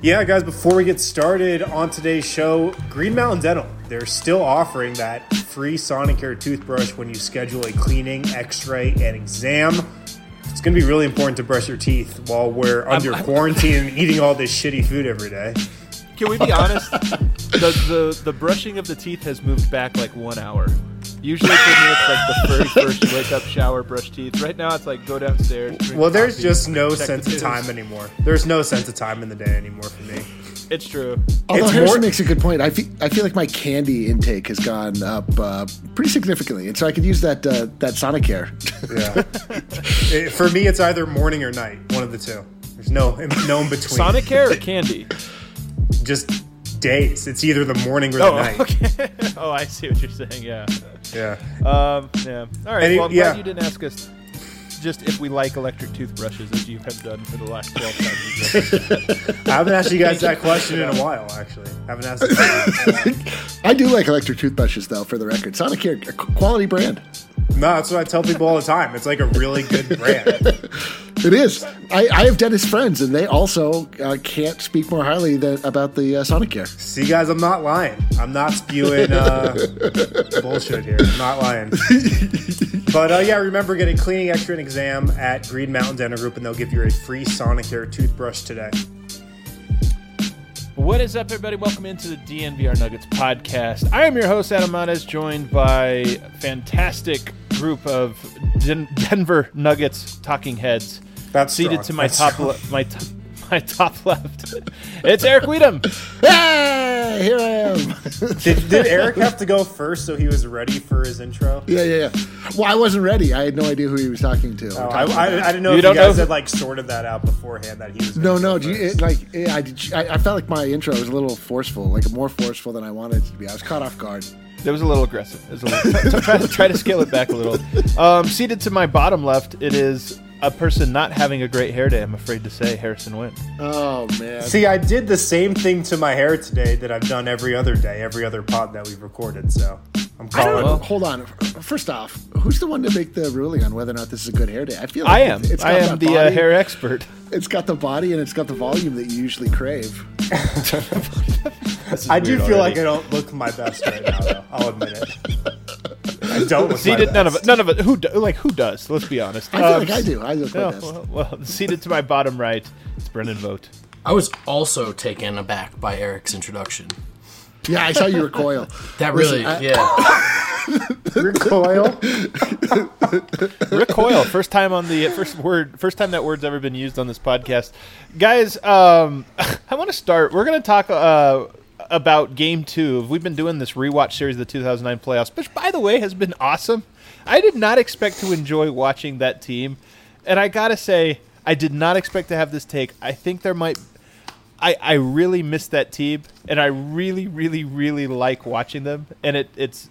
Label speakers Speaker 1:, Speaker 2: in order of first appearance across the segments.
Speaker 1: Yeah, guys, before we get started on today's show, Green Mountain Dental, they're still offering that free Sonicare toothbrush when you schedule a cleaning, x-ray, and exam. It's going to be really important to brush your teeth while we're under quarantine and eating all this shitty food every day.
Speaker 2: Can we be honest? The brushing of the teeth has moved back like 1 hour. Usually for me it's like the very first you wake up, shower, brush teeth. Right now it's like go downstairs, drink
Speaker 1: Well, there's
Speaker 2: coffee,
Speaker 1: just no
Speaker 2: check
Speaker 1: sense
Speaker 2: the
Speaker 1: of
Speaker 2: news.
Speaker 1: time anymore. There's no sense of time in the day anymore for me.
Speaker 2: It's true.
Speaker 3: Although
Speaker 1: It's
Speaker 3: Harrison
Speaker 1: more-
Speaker 3: makes a good point. I feel like my candy intake has gone up pretty significantly, and so I could use that Sonicare.
Speaker 1: Yeah. For me, it's either morning or night, one of the two. There's no in between.
Speaker 2: Sonicare or candy?
Speaker 1: Just days. It's either the morning or the night.
Speaker 2: Okay. Oh, I see what you're saying. Yeah.
Speaker 1: Yeah.
Speaker 2: Yeah. All right. Well, I'm
Speaker 1: yeah.
Speaker 2: glad you didn't ask us just if we like electric toothbrushes, as you have done for the last 12 times.
Speaker 1: I haven't asked you guys that question in a while, actually. I haven't asked it.
Speaker 3: I do like electric toothbrushes, though, for the record. Sonicare, a quality brand.
Speaker 1: No, that's what I tell people all the time. It's like a really good brand.
Speaker 3: It is. I have dentist friends, and they also can't speak more highly about the Sonicare.
Speaker 1: See, guys, I'm not lying. I'm not spewing bullshit here. I'm not lying. But, yeah, remember, get a cleaning, x-ray, and exam at Green Mountain Dental Group, and they'll give you a free Sonicare toothbrush today.
Speaker 2: What is up, everybody? Welcome into the DNVR Nuggets podcast. I am your host, Adam Montes, joined by a fantastic group of Denver Nuggets talking heads.
Speaker 1: That's
Speaker 2: seated
Speaker 1: strong.
Speaker 2: to my top left. It's Eric Weedham.
Speaker 3: Hey, here I am.
Speaker 1: Did Eric have to go first so he was ready for his intro?
Speaker 3: Yeah. Well, I wasn't ready. I had no idea who he was talking to.
Speaker 1: Oh, I didn't know if you guys had like sorted that out beforehand that he was.
Speaker 3: No.
Speaker 1: First.
Speaker 3: I felt like my intro was a little forceful, like more forceful than I wanted it to be. I was caught off guard.
Speaker 2: It was a little aggressive. It was a little, try to scale it back a little. Seated to my bottom left, it is a person not having a great hair day, I'm afraid to say, Harrison Wind.
Speaker 3: Oh, man.
Speaker 1: See, I did the same thing to my hair today that I've done every other day, every other pod that we've recorded. So I'm calling.
Speaker 3: Hold on. First off, who's the one to make the ruling on whether or not this is a good hair day? I feel
Speaker 2: I
Speaker 3: like
Speaker 2: am.
Speaker 3: it's got
Speaker 2: I am
Speaker 3: that
Speaker 2: the
Speaker 3: body.
Speaker 2: hair expert.
Speaker 3: It's got the body and it's got the volume that you usually crave.
Speaker 1: I do feel like I don't look my best right now, though. I'll admit it. I don't look my best.
Speaker 2: None of it. Who does? Let's be honest.
Speaker 3: I feel like I do. I look my best.
Speaker 2: Well, seated to my bottom right, it's Brendan Vogt.
Speaker 4: I was also taken aback by Eric's introduction.
Speaker 3: Yeah, I saw you recoil.
Speaker 4: That really,
Speaker 1: Recoil.
Speaker 2: Recoil. First time that word's ever been used on this podcast. Guys, I want to start. We're going to talk about Game 2. We've been doing this rewatch series of the 2009 playoffs, which, by the way, has been awesome. I did not expect to enjoy watching that team, and I got to say, I did not expect to have this take. I think there might... I really miss that team, and I really, really, really like watching them, and it's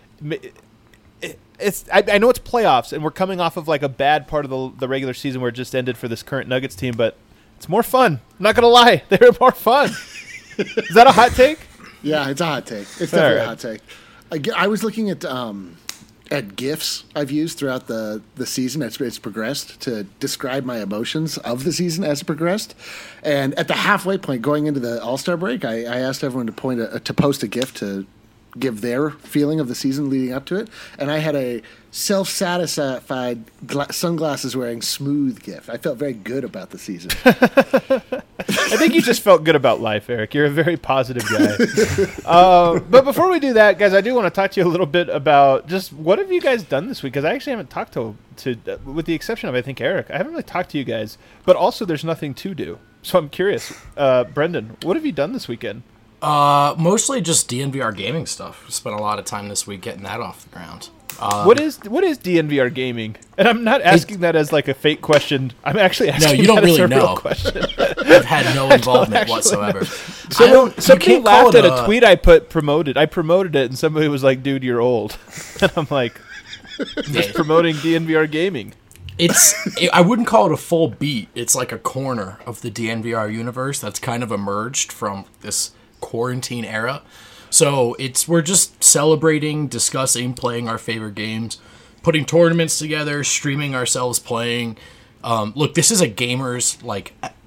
Speaker 2: I know it's playoffs, and we're coming off of like a bad part of the regular season where it just ended for this current Nuggets team, but it's more fun. I'm not going to lie. They're more fun. Is that a hot take?
Speaker 3: Yeah, it's a hot take. It's definitely
Speaker 2: right.
Speaker 3: a hot take. I was looking at GIFs I've used throughout the season as it's progressed to describe my emotions of the season as it progressed. And at the halfway point going into the All-Star break, I asked everyone to post a GIF to give their feeling of the season leading up to it. And I had a self-satisfied sunglasses-wearing smooth GIF. I felt very good about the season.
Speaker 2: I think you just felt good about life, Eric. You're a very positive guy. But before we do that, guys, I do want to talk to you a little bit about just what have you guys done this week? Because I actually haven't talked to, with the exception of, I think, Eric. I haven't really talked to you guys. But also, there's nothing to do. So I'm curious. Brendan, what have you done this weekend?
Speaker 4: mostly just DNVR gaming stuff. Spent a lot of time this week getting that off the ground.
Speaker 2: What is DNVR gaming? And I'm not asking that as like a fake question. I'm actually asking.
Speaker 4: No, you don't
Speaker 2: that
Speaker 4: really
Speaker 2: as a real
Speaker 4: know.
Speaker 2: question.
Speaker 4: I've had no involvement whatsoever.
Speaker 2: Somebody laughed at a tweet I promoted. I promoted it, and somebody was like, "Dude, you're old." And I'm like, just promoting DNVR gaming.
Speaker 4: I wouldn't call it a full beat. It's like a corner of the DNVR universe that's kind of emerged from this quarantine era. So we're just celebrating, discussing, playing our favorite games, putting tournaments together, streaming ourselves playing. Look, this is a gamer's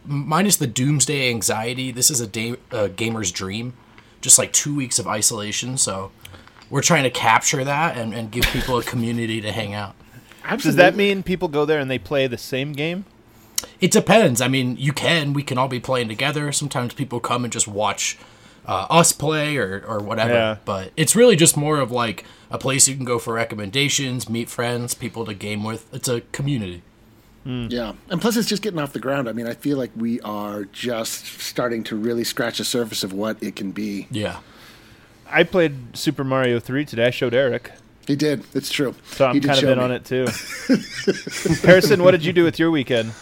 Speaker 4: minus the doomsday anxiety, this is a gamer's dream. Just like 2 weeks of isolation, so we're trying to capture that and give people a community to hang out.
Speaker 3: Absolutely.
Speaker 2: Does that mean people go there and they play the same game?
Speaker 4: It depends. I mean, we can all be playing together. Sometimes people come and just watch us play or whatever.
Speaker 2: Yeah.
Speaker 4: But it's really just more of like a place you can go for recommendations, meet friends, people to game with. It's a community.
Speaker 3: Yeah, and plus it's just getting off the ground. I mean, I feel like we are just starting to really scratch the surface of what it can be.
Speaker 4: Yeah.
Speaker 2: I played Super Mario 3 today. I showed Eric.
Speaker 3: He did. It's true.
Speaker 2: So I'm
Speaker 3: He did
Speaker 2: kind of
Speaker 3: show
Speaker 2: in
Speaker 3: me.
Speaker 2: on it too. Harrison, what did you do with your weekend?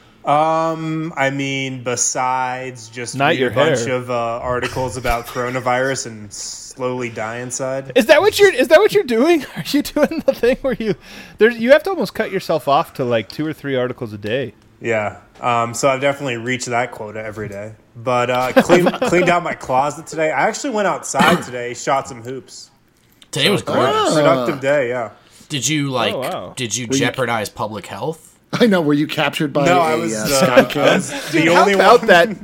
Speaker 1: I mean, besides just
Speaker 2: Not
Speaker 1: read
Speaker 2: your
Speaker 1: a bunch
Speaker 2: hair.
Speaker 1: of articles about coronavirus and slowly die inside.
Speaker 2: Is that what you're doing? Are you doing the thing where you have to almost cut yourself off to like 2 or 3 articles a day?
Speaker 1: Yeah. So I've definitely reached that quota every day. But cleaned out my closet today. I actually went outside today, shot some hoops.
Speaker 4: Today was great.
Speaker 1: Productive day, yeah.
Speaker 4: Did you
Speaker 2: wow.
Speaker 4: Did you jeopardize public health?
Speaker 3: I know. Were you captured by
Speaker 1: No,
Speaker 3: a
Speaker 1: I was
Speaker 3: Skycam?
Speaker 1: the
Speaker 2: How
Speaker 1: only
Speaker 2: about
Speaker 1: one.
Speaker 2: that?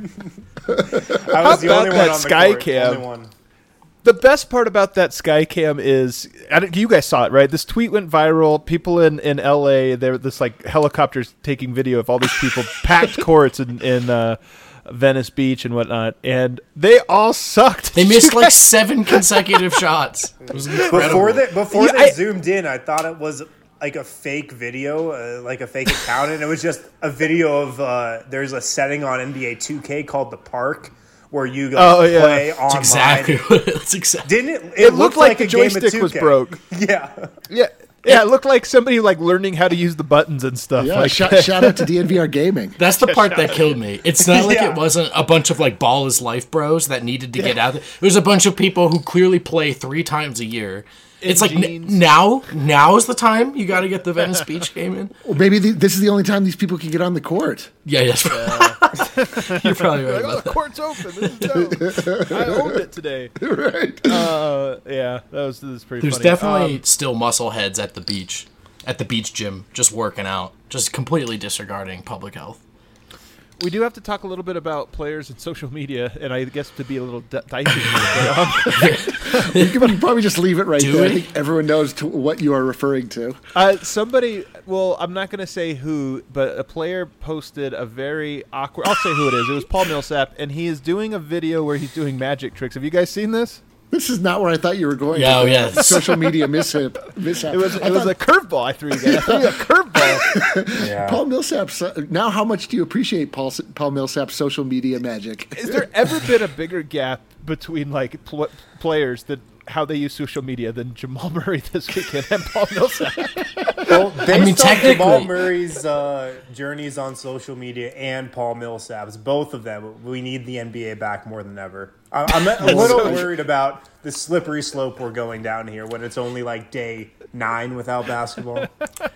Speaker 1: I was the
Speaker 2: how
Speaker 1: only
Speaker 2: about
Speaker 1: one
Speaker 2: that
Speaker 1: on the
Speaker 2: sky
Speaker 1: court.
Speaker 2: cam?
Speaker 1: Only one.
Speaker 2: The best part about that Skycam is, you guys saw it, right? This tweet went viral. People in LA, there this like helicopters taking video of all these people, packed courts in Venice Beach and whatnot, and they all sucked.
Speaker 4: They missed like 7 consecutive shots. It was incredible.
Speaker 1: Before
Speaker 2: Yeah,
Speaker 1: they zoomed in, I thought it was like a fake video, like a fake account, and it was just a video of there's a setting on NBA 2K called The Park where you play online.
Speaker 4: That's exactly what that's exactly.
Speaker 1: Didn't it?
Speaker 2: It looked like the
Speaker 1: a game of
Speaker 2: joystick was
Speaker 1: 2K.
Speaker 2: broke.
Speaker 1: Yeah.
Speaker 2: Yeah, it looked like somebody like learning how to use the buttons and stuff.
Speaker 3: Yeah,
Speaker 2: like
Speaker 3: shout out to DNVR Gaming.
Speaker 4: That's the part that killed me. It's not like
Speaker 1: Yeah.
Speaker 4: it wasn't a bunch of like ball is life bros that needed to get out there. It was a bunch of people who clearly play 3 times a year. It's like
Speaker 2: jeans.
Speaker 4: now is the time you got to get the Venice Beach game in.
Speaker 3: Well, maybe this is the only time these people can get on the court.
Speaker 4: Yeah, yes. You're probably right
Speaker 2: oh,
Speaker 4: about
Speaker 2: the
Speaker 4: that.
Speaker 2: court's open. This is dope. I owned it today.
Speaker 3: Right.
Speaker 2: Yeah, this is pretty
Speaker 4: There's
Speaker 2: funny.
Speaker 4: definitely still muscle heads at the beach gym, just working out, just completely disregarding public health.
Speaker 2: We do have to talk a little bit about players and social media, and I guess to be a little dicey.
Speaker 3: You can probably just leave it right
Speaker 4: Do
Speaker 3: there.
Speaker 4: we?
Speaker 3: I think everyone knows what you are referring to.
Speaker 2: Somebody, well, I'm not going to say who, but a player posted a very awkward. I'll say who it is. It was Paul Millsap, and he is doing a video where he's doing magic tricks. Have you guys seen this?
Speaker 3: This is not where I thought you were going.
Speaker 4: Yeah,
Speaker 3: with
Speaker 4: yeah.
Speaker 3: the Social media mishap.
Speaker 2: It was a curveball I threw you guys. I threw you a curveball.
Speaker 1: Yeah.
Speaker 3: Paul Millsap's. Now, how much do you appreciate Paul Millsap's social media magic?
Speaker 2: Is there ever been a bigger gap between like players that how they use social media than Jamal Murray this weekend and Paul Millsap?
Speaker 1: Well, based on
Speaker 4: technically-
Speaker 1: Jamal Murray's journeys on social media and Paul Millsap's, both of them, we need the NBA back more than ever. I'm a little worried about the slippery slope we're going down here when it's only like day 9 without basketball.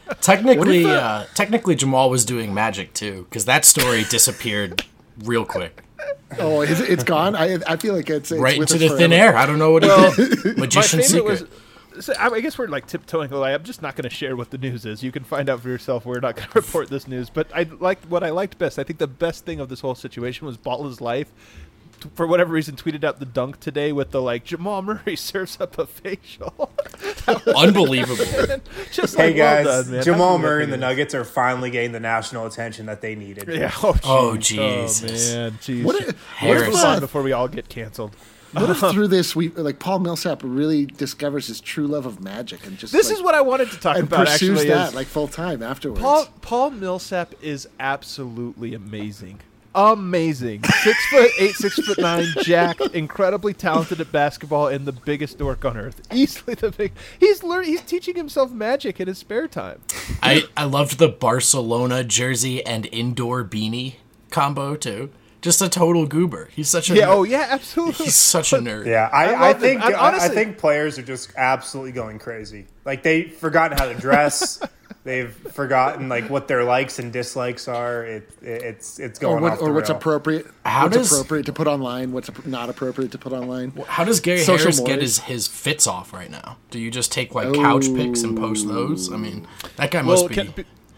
Speaker 4: Technically, Jamal was doing magic too, because that story disappeared real quick,
Speaker 3: Oh, it's gone. I feel like it's
Speaker 4: right
Speaker 3: with
Speaker 4: into
Speaker 3: us
Speaker 4: the thin
Speaker 3: forever.
Speaker 4: air. I don't know what he did.
Speaker 2: My
Speaker 4: Magician's
Speaker 2: favorite
Speaker 4: secret.
Speaker 2: was. So I guess we're like tiptoeing away. I'm just not going to share what the news is. You can find out for yourself. We're not going to report this news. But what I liked best. I think the best thing of this whole situation was Ball is Life. For whatever reason, tweeted out the dunk today with the like Jamal Murray serves up a facial.
Speaker 4: Unbelievable.
Speaker 2: Just
Speaker 1: Hey
Speaker 2: like,
Speaker 1: guys,
Speaker 2: well done, man.
Speaker 1: Jamal
Speaker 2: How good
Speaker 1: Murray
Speaker 2: that
Speaker 1: and the
Speaker 2: is.
Speaker 1: Nuggets are finally getting the national attention that they needed.
Speaker 2: Yeah.
Speaker 4: Oh,
Speaker 2: Jesus.
Speaker 4: Jesus.
Speaker 2: Oh man. Jeez.
Speaker 3: What if,
Speaker 4: Harris.
Speaker 2: Move on before we all get canceled.
Speaker 3: what if through this Paul Millsap really discovers his true love of magic and just
Speaker 2: This is what I wanted to talk
Speaker 3: and
Speaker 2: about.
Speaker 3: pursues
Speaker 2: Actually,
Speaker 3: that
Speaker 2: is
Speaker 3: like full time afterwards.
Speaker 2: Paul Millsap is absolutely amazing. Amazing. 6'8", 6'9", jacked, incredibly talented at basketball, and the biggest dork on earth. Easily the big. He's teaching himself magic in his spare time.
Speaker 4: I loved the Barcelona jersey and indoor beanie combo too. Just a total goober. He's such a
Speaker 2: Yeah.
Speaker 4: nerd.
Speaker 2: Oh yeah. Absolutely.
Speaker 4: He's such a nerd.
Speaker 1: Yeah,
Speaker 2: I
Speaker 1: I
Speaker 2: love
Speaker 1: think
Speaker 2: it. Honestly-
Speaker 1: I think players are just absolutely going crazy. Like they've forgotten how to dress. They've forgotten like what their likes and dislikes are. It's going off the
Speaker 3: what's
Speaker 1: rail.
Speaker 3: appropriate.
Speaker 4: How
Speaker 3: what's
Speaker 4: does-
Speaker 3: appropriate to put online? What's not appropriate to put online?
Speaker 4: How does Gary
Speaker 3: Social
Speaker 4: Harris get
Speaker 3: mores.
Speaker 4: his fits off right now? Do you just take like couch pics and post those? I mean, that guy must be.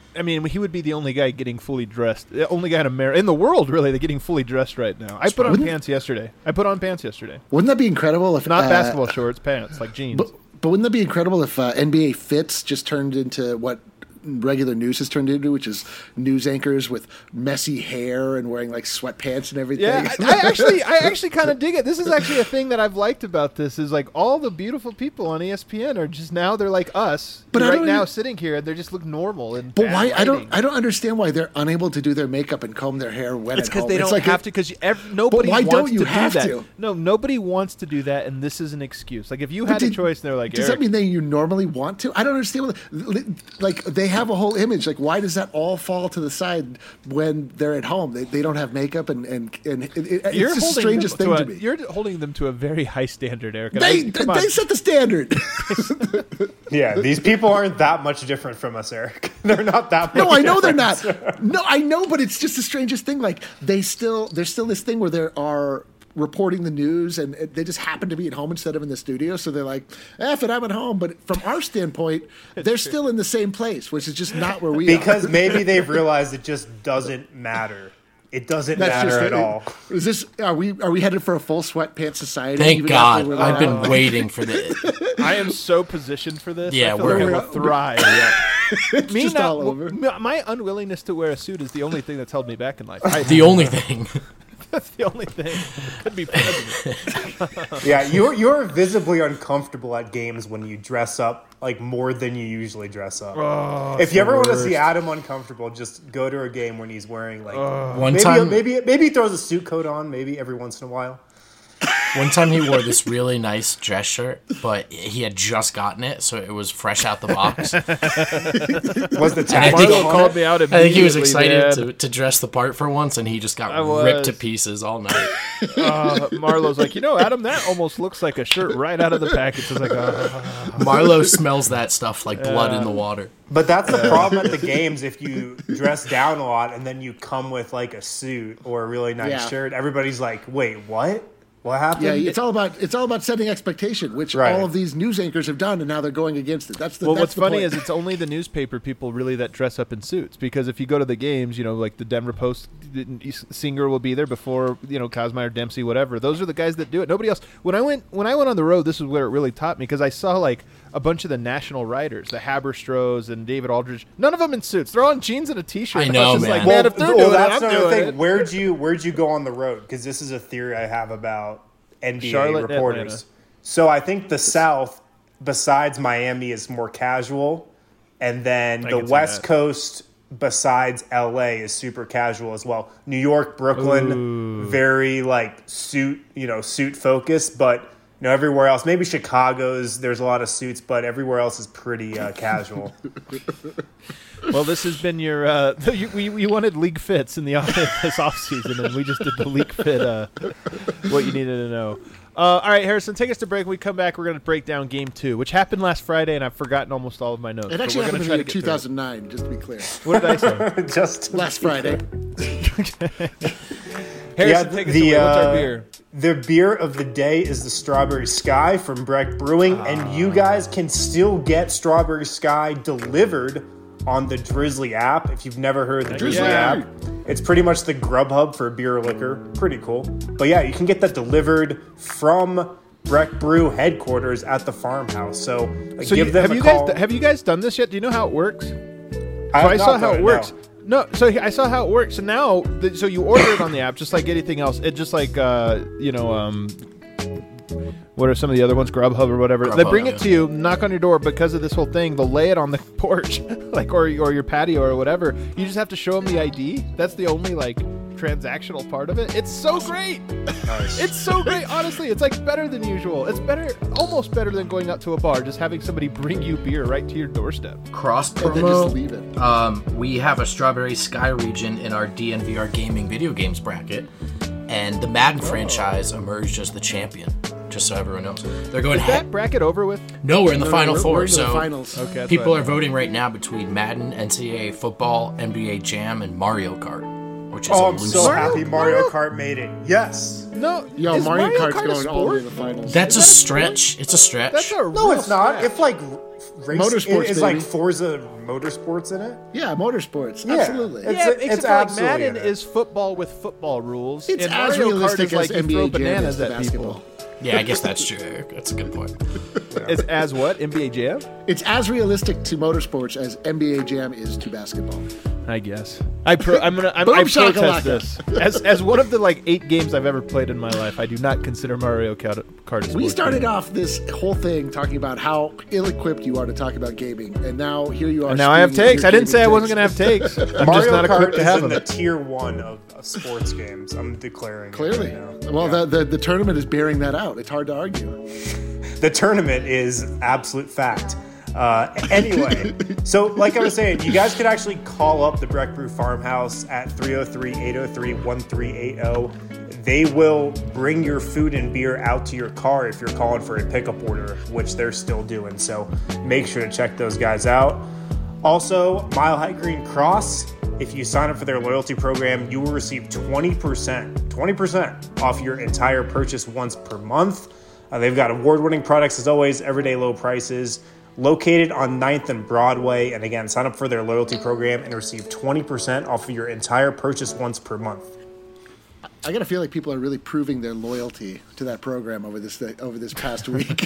Speaker 2: I mean, he would be the only guy getting fully dressed. The only guy in the world, really, that's getting fully dressed right now. I put on pants yesterday.
Speaker 3: Wouldn't that be incredible if
Speaker 2: Not basketball shorts, pants, like jeans.
Speaker 3: But wouldn't that be incredible if NBA Fits just turned into what regular news has turned into, which is news anchors with messy hair and wearing like sweatpants and everything?
Speaker 2: Yeah, I actually kind of dig it. This is actually a thing that I've liked about this is like all the beautiful people on ESPN are just now they're like us.
Speaker 3: But
Speaker 2: right now sitting here and they just look normal. And
Speaker 3: but why? I don't understand why they're unable to do their makeup and comb their hair when
Speaker 2: it's
Speaker 3: at home.
Speaker 2: They don't have to because nobody.
Speaker 3: But why
Speaker 2: wants
Speaker 3: don't you
Speaker 2: to
Speaker 3: have
Speaker 2: do that.
Speaker 3: to?
Speaker 2: No, nobody wants to do that, and this is an excuse. Like if you had a choice, and they're like,
Speaker 3: does that mean that you normally want to? I don't understand. Like they have a whole image. Like, why does that all fall to the side when they're at home? They don't have makeup, and it's just the strangest thing to me.
Speaker 2: You're holding them to a very high standard, Eric.
Speaker 3: They set the standard.
Speaker 1: Yeah, these people aren't that much different from us, Eric. They're not that much
Speaker 3: No, I know
Speaker 1: different.
Speaker 3: they're not. No, I know, but it's just the strangest thing. Like, there's still this thing where there are reporting the news and they just happen to be at home instead of in the studio, so they're like, F it, I'm at home. But from our standpoint, they're still in the same place, which is just not where we are.
Speaker 1: Because maybe they've realized it just doesn't matter. It doesn't matter at all.
Speaker 3: Is this are we headed for a full sweatpants society?
Speaker 4: Thank God. I've been waiting for this.
Speaker 2: I am so positioned for this.
Speaker 4: Yeah,
Speaker 2: I feel like I will thrive.
Speaker 3: It's just all over.
Speaker 2: My unwillingness to wear a suit is the only thing that's held me back in life.
Speaker 4: The only thing.
Speaker 2: That's the only thing. Could be president.
Speaker 1: Yeah, you're visibly uncomfortable at games when you dress up like more than you usually dress up.
Speaker 2: Oh,
Speaker 1: if you ever want to see Adam uncomfortable, just go to a game when he's wearing like maybe he throws a suit coat on maybe every once in a while.
Speaker 4: One time he wore this really nice dress shirt, but he had just gotten it, so it was fresh out the box.
Speaker 1: Was the tag
Speaker 2: Marlo called me out immediately.
Speaker 4: I think he was excited to dress the part for once, and he just got ripped to pieces all night.
Speaker 2: Marlo's like, Adam, that almost looks like a shirt right out of the package. It's like,
Speaker 4: Marlo smells that stuff like blood in the water.
Speaker 1: But that's the problem at the games. If you dress down a lot and then you come with like a suit or a really nice shirt, everybody's like, wait, what? What happened?
Speaker 3: Yeah, it's all about setting expectation, which all of these news anchors have done, and now they're going against it.
Speaker 2: What's funny is it's only the newspaper people really that dress up in suits, because if you go to the games, like the Denver Post, Singer will be there before Kazmaier, Dempsey, whatever. Those are the guys that do it. Nobody else. When I went on the road, this is where it really taught me, because I saw like a bunch of the national writers, the Haberstros and David Aldridge. None of them in suits. They're all in jeans and a t-shirt.
Speaker 4: I know,
Speaker 2: man.
Speaker 4: Like,
Speaker 2: man, if they're doing
Speaker 1: that's
Speaker 2: it, I'm doing it.
Speaker 1: Where'd you go on the road? Because this is a theory I have about NBA
Speaker 2: Charlotte,
Speaker 1: reporters.
Speaker 2: Atlanta.
Speaker 1: So I think the South, besides Miami, is more casual, and then the West Coast, besides LA, is super casual as well. New York, Brooklyn, very like suit focused, but everywhere else, maybe Chicago's, there's a lot of suits, but everywhere else is pretty casual.
Speaker 2: Well, this has been your. You wanted league fits in this offseason, and we just did the league fit. What you needed to know. All right, Harrison, take us to break. When we come back, we're going to break down Game 2, which happened last Friday, and I've forgotten almost all of my notes.
Speaker 3: It actually happened in 2009, just to be clear.
Speaker 2: What did I say?
Speaker 1: Just
Speaker 3: last Friday.
Speaker 2: Harrison, take us away. What's our beer?
Speaker 1: The beer of the day is the Strawberry Sky from Breck Brewing, and you guys can still get Strawberry Sky delivered on the Drizzly app. If you've never heard the Drizzly app, it's pretty much the Grubhub for beer or liquor. Pretty cool. But yeah, you can get that delivered from Breck Brew headquarters at the farmhouse. So give them a call.
Speaker 2: Have you guys done this yet? Do you know how it works?
Speaker 1: I
Speaker 2: saw how it works. No, so I saw how it works. So now, so you order it on the app, just like anything else. It just like what are some of the other ones? Grubhub or whatever. They bring it to you, knock on your door. Because of this whole thing, they'll lay it on the porch, or your patio or whatever. You just have to show them the ID. That's the only transactional part of it. It's so great. Nice. It's so great. Honestly, it's better than usual. It's almost better than going out to a bar. Just having somebody bring you beer right to your doorstep.
Speaker 4: Cross promo.
Speaker 3: They just leave it.
Speaker 4: We have a Strawberry Sky region in our DNVR gaming video games bracket, and the Madden franchise emerged as the champion. Just so everyone knows, they're going.
Speaker 2: Is that bracket over with?
Speaker 4: No, we're in the final four.
Speaker 3: We're in
Speaker 4: so
Speaker 3: the finals.
Speaker 2: Okay,
Speaker 4: people are voting right now between Madden, NCAA football, NBA Jam, and Mario Kart, which is
Speaker 1: I'm so happy Mario Kart made it. Yes.
Speaker 2: No,
Speaker 3: Mario Kart's
Speaker 2: Kart
Speaker 3: going all the way to the finals.
Speaker 4: That's a stretch. It's a stretch.
Speaker 2: That's a
Speaker 1: No, it's not.
Speaker 2: stretch.
Speaker 1: If
Speaker 3: Motorsports,
Speaker 1: Is
Speaker 3: baby.
Speaker 1: like Forza Motorsports in it?
Speaker 3: Yeah, motorsports.
Speaker 1: Yeah.
Speaker 3: Absolutely.
Speaker 1: It's-
Speaker 2: Yeah, except for, like
Speaker 1: absolutely
Speaker 2: Madden
Speaker 1: in it.
Speaker 2: is football with football rules.
Speaker 3: It's
Speaker 2: and
Speaker 3: as
Speaker 2: Mario Kart
Speaker 3: realistic
Speaker 2: is like
Speaker 3: as
Speaker 2: you throw
Speaker 3: NBA Jam is
Speaker 2: bananas
Speaker 3: to
Speaker 2: at
Speaker 3: basketball.
Speaker 2: people.
Speaker 4: Yeah, I guess that's true, Eric. That's a good point.
Speaker 2: It's as what? NBA Jam?
Speaker 3: It's as realistic to motorsports as NBA Jam is to basketball.
Speaker 2: I guess. I protest
Speaker 3: shakalaka.
Speaker 2: this. As one of the like 8 games I've ever played in my life, I do not consider Mario Kart a sport
Speaker 3: We started
Speaker 2: game.
Speaker 3: off this whole thing talking about how ill-equipped you are to talk about gaming, and now here you are.
Speaker 2: And now I have
Speaker 3: spewing
Speaker 2: takes.
Speaker 3: your
Speaker 2: I didn't say I
Speaker 3: gaming
Speaker 2: wasn't going to have takes. I'm just
Speaker 1: Mario
Speaker 2: not
Speaker 1: Kart
Speaker 2: equipped to
Speaker 1: is
Speaker 2: have
Speaker 1: in
Speaker 2: them.
Speaker 1: the tier 1 of sports games. I'm declaring. it
Speaker 3: Clearly.
Speaker 1: right now.
Speaker 3: Well, the tournament is bearing that out. It's hard to argue.
Speaker 1: The tournament is absolute fact. Anyway, so like I was saying, you guys could actually call up the Breck Brew Farmhouse at 303-803-1380. They will bring your food and beer out to your car if you're calling for a pickup order, which they're still doing. So make sure to check those guys out. Also, Mile High Green Cross, if you sign up for their loyalty program, you will receive 20% off your entire purchase once per month. They've got award-winning products as always, everyday low prices. Located on 9th and Broadway. And again, sign up for their loyalty program and receive 20% off of your entire purchase once per month.
Speaker 3: I gotta feel like people are really proving their loyalty to that program over this past week.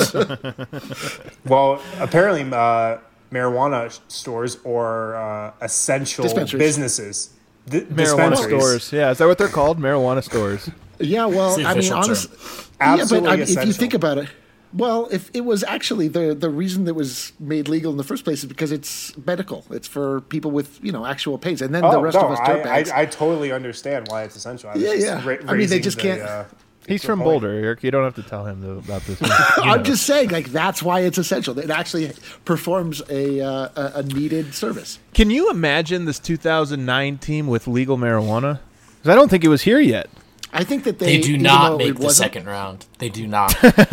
Speaker 1: Well, apparently marijuana stores or essential
Speaker 3: Dispensaries.
Speaker 1: businesses.
Speaker 2: Marijuana
Speaker 1: Dispensaries.
Speaker 2: stores. Yeah, is that what they're called? Marijuana stores.
Speaker 3: Yeah, well,
Speaker 4: It's the
Speaker 3: I mean,
Speaker 4: official term.
Speaker 3: honestly,
Speaker 1: Absolutely
Speaker 3: yeah, but if you
Speaker 1: essential.
Speaker 3: think about it, well, if it was actually the reason that was made legal in the first place is because it's medical. It's for people with actual pains, and then the rest of us dirtbags.
Speaker 1: I totally understand why it's essential. I was
Speaker 3: Yeah,
Speaker 1: just
Speaker 3: yeah. I mean, they
Speaker 1: raising
Speaker 3: just
Speaker 1: the,
Speaker 3: can't-
Speaker 2: He's from
Speaker 1: point.
Speaker 2: Boulder, Eric. You don't have to tell him about this.
Speaker 3: I'm just saying, like that's why it's essential. It actually performs a needed service.
Speaker 2: Can you imagine this 2009 team with legal marijuana? 'Cause I don't think it was here yet.
Speaker 3: I think that
Speaker 4: They do
Speaker 3: even
Speaker 4: not
Speaker 3: though
Speaker 4: make
Speaker 3: it
Speaker 4: the
Speaker 3: wasn't-
Speaker 4: second round. They do not.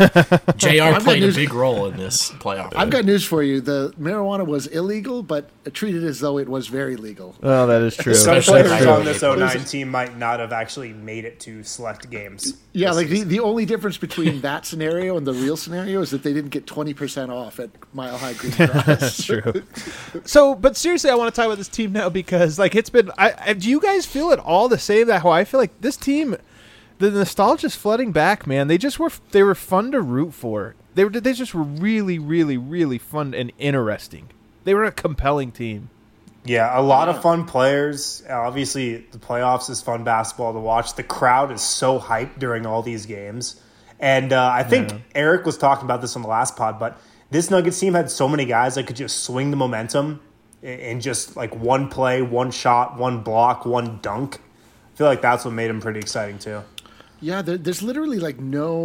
Speaker 4: JR
Speaker 3: got
Speaker 4: played a
Speaker 3: news-
Speaker 4: big role in this playoff.
Speaker 3: I've got news for you. The marijuana was illegal, but treated as though it was very legal.
Speaker 2: Oh, that is true.
Speaker 1: Some
Speaker 4: Especially
Speaker 1: players
Speaker 4: if I
Speaker 1: on this
Speaker 4: really
Speaker 1: 09 team might not have actually made it to select games.
Speaker 3: Yeah, like the only difference between that scenario and the real scenario is that they didn't get 20% off at Mile High Green Cross.
Speaker 2: That's true. So, but seriously, I want to talk about this team now because, like, it's been. Do you guys feel it all the same? That how I feel like this team, the nostalgia's flooding back, man. They were fun to root for. They just were really, really, really fun and interesting. They were a compelling team.
Speaker 1: Yeah, a lot of fun players. Obviously, the playoffs is fun basketball to watch. The crowd is so hyped during all these games. And I think Eric was talking about this on the last pod, but this Nuggets team had so many guys that could just swing the momentum in just like one play, one shot, one block, one dunk. I feel like that's what made them pretty exciting too.
Speaker 3: Yeah, there's literally like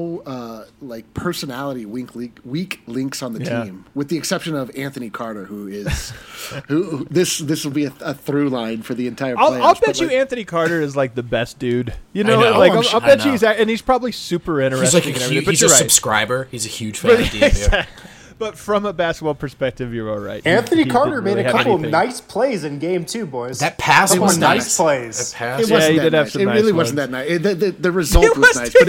Speaker 3: no like personality weak links on the
Speaker 2: Yeah.
Speaker 3: team, with the exception of Anthony Carter, who is who this will be a through line for the entire playoffs.
Speaker 2: I'll bet
Speaker 3: but,
Speaker 2: you
Speaker 3: like,
Speaker 2: Anthony Carter is like the best dude. You know,
Speaker 4: know.
Speaker 2: like
Speaker 3: Oh, I'm
Speaker 2: I'll
Speaker 3: sure-
Speaker 2: bet
Speaker 4: I
Speaker 2: you
Speaker 4: know.
Speaker 2: and he's probably super
Speaker 4: He's
Speaker 2: interesting.
Speaker 4: like
Speaker 2: and
Speaker 4: a
Speaker 2: everything,
Speaker 4: huge,
Speaker 2: but
Speaker 4: he's a
Speaker 2: you're right.
Speaker 4: subscriber. He's a huge fan of DNVR.
Speaker 2: But from a basketball perspective, you're all right.
Speaker 1: Anthony
Speaker 2: He
Speaker 1: Carter
Speaker 2: didn't
Speaker 1: made
Speaker 2: really
Speaker 1: a
Speaker 2: have
Speaker 1: couple
Speaker 2: anything.
Speaker 1: nice plays in game 2, boys.
Speaker 4: That pass
Speaker 1: Couple
Speaker 4: was
Speaker 1: nice
Speaker 4: nice.
Speaker 1: plays.
Speaker 4: That pass.
Speaker 3: It
Speaker 2: Yeah,
Speaker 3: wasn't
Speaker 2: he
Speaker 3: that
Speaker 2: did have
Speaker 3: nice.
Speaker 2: some
Speaker 3: It
Speaker 2: nice
Speaker 3: really
Speaker 2: ones.
Speaker 3: wasn't that nice. The result
Speaker 2: It
Speaker 3: was
Speaker 2: was
Speaker 3: nice, but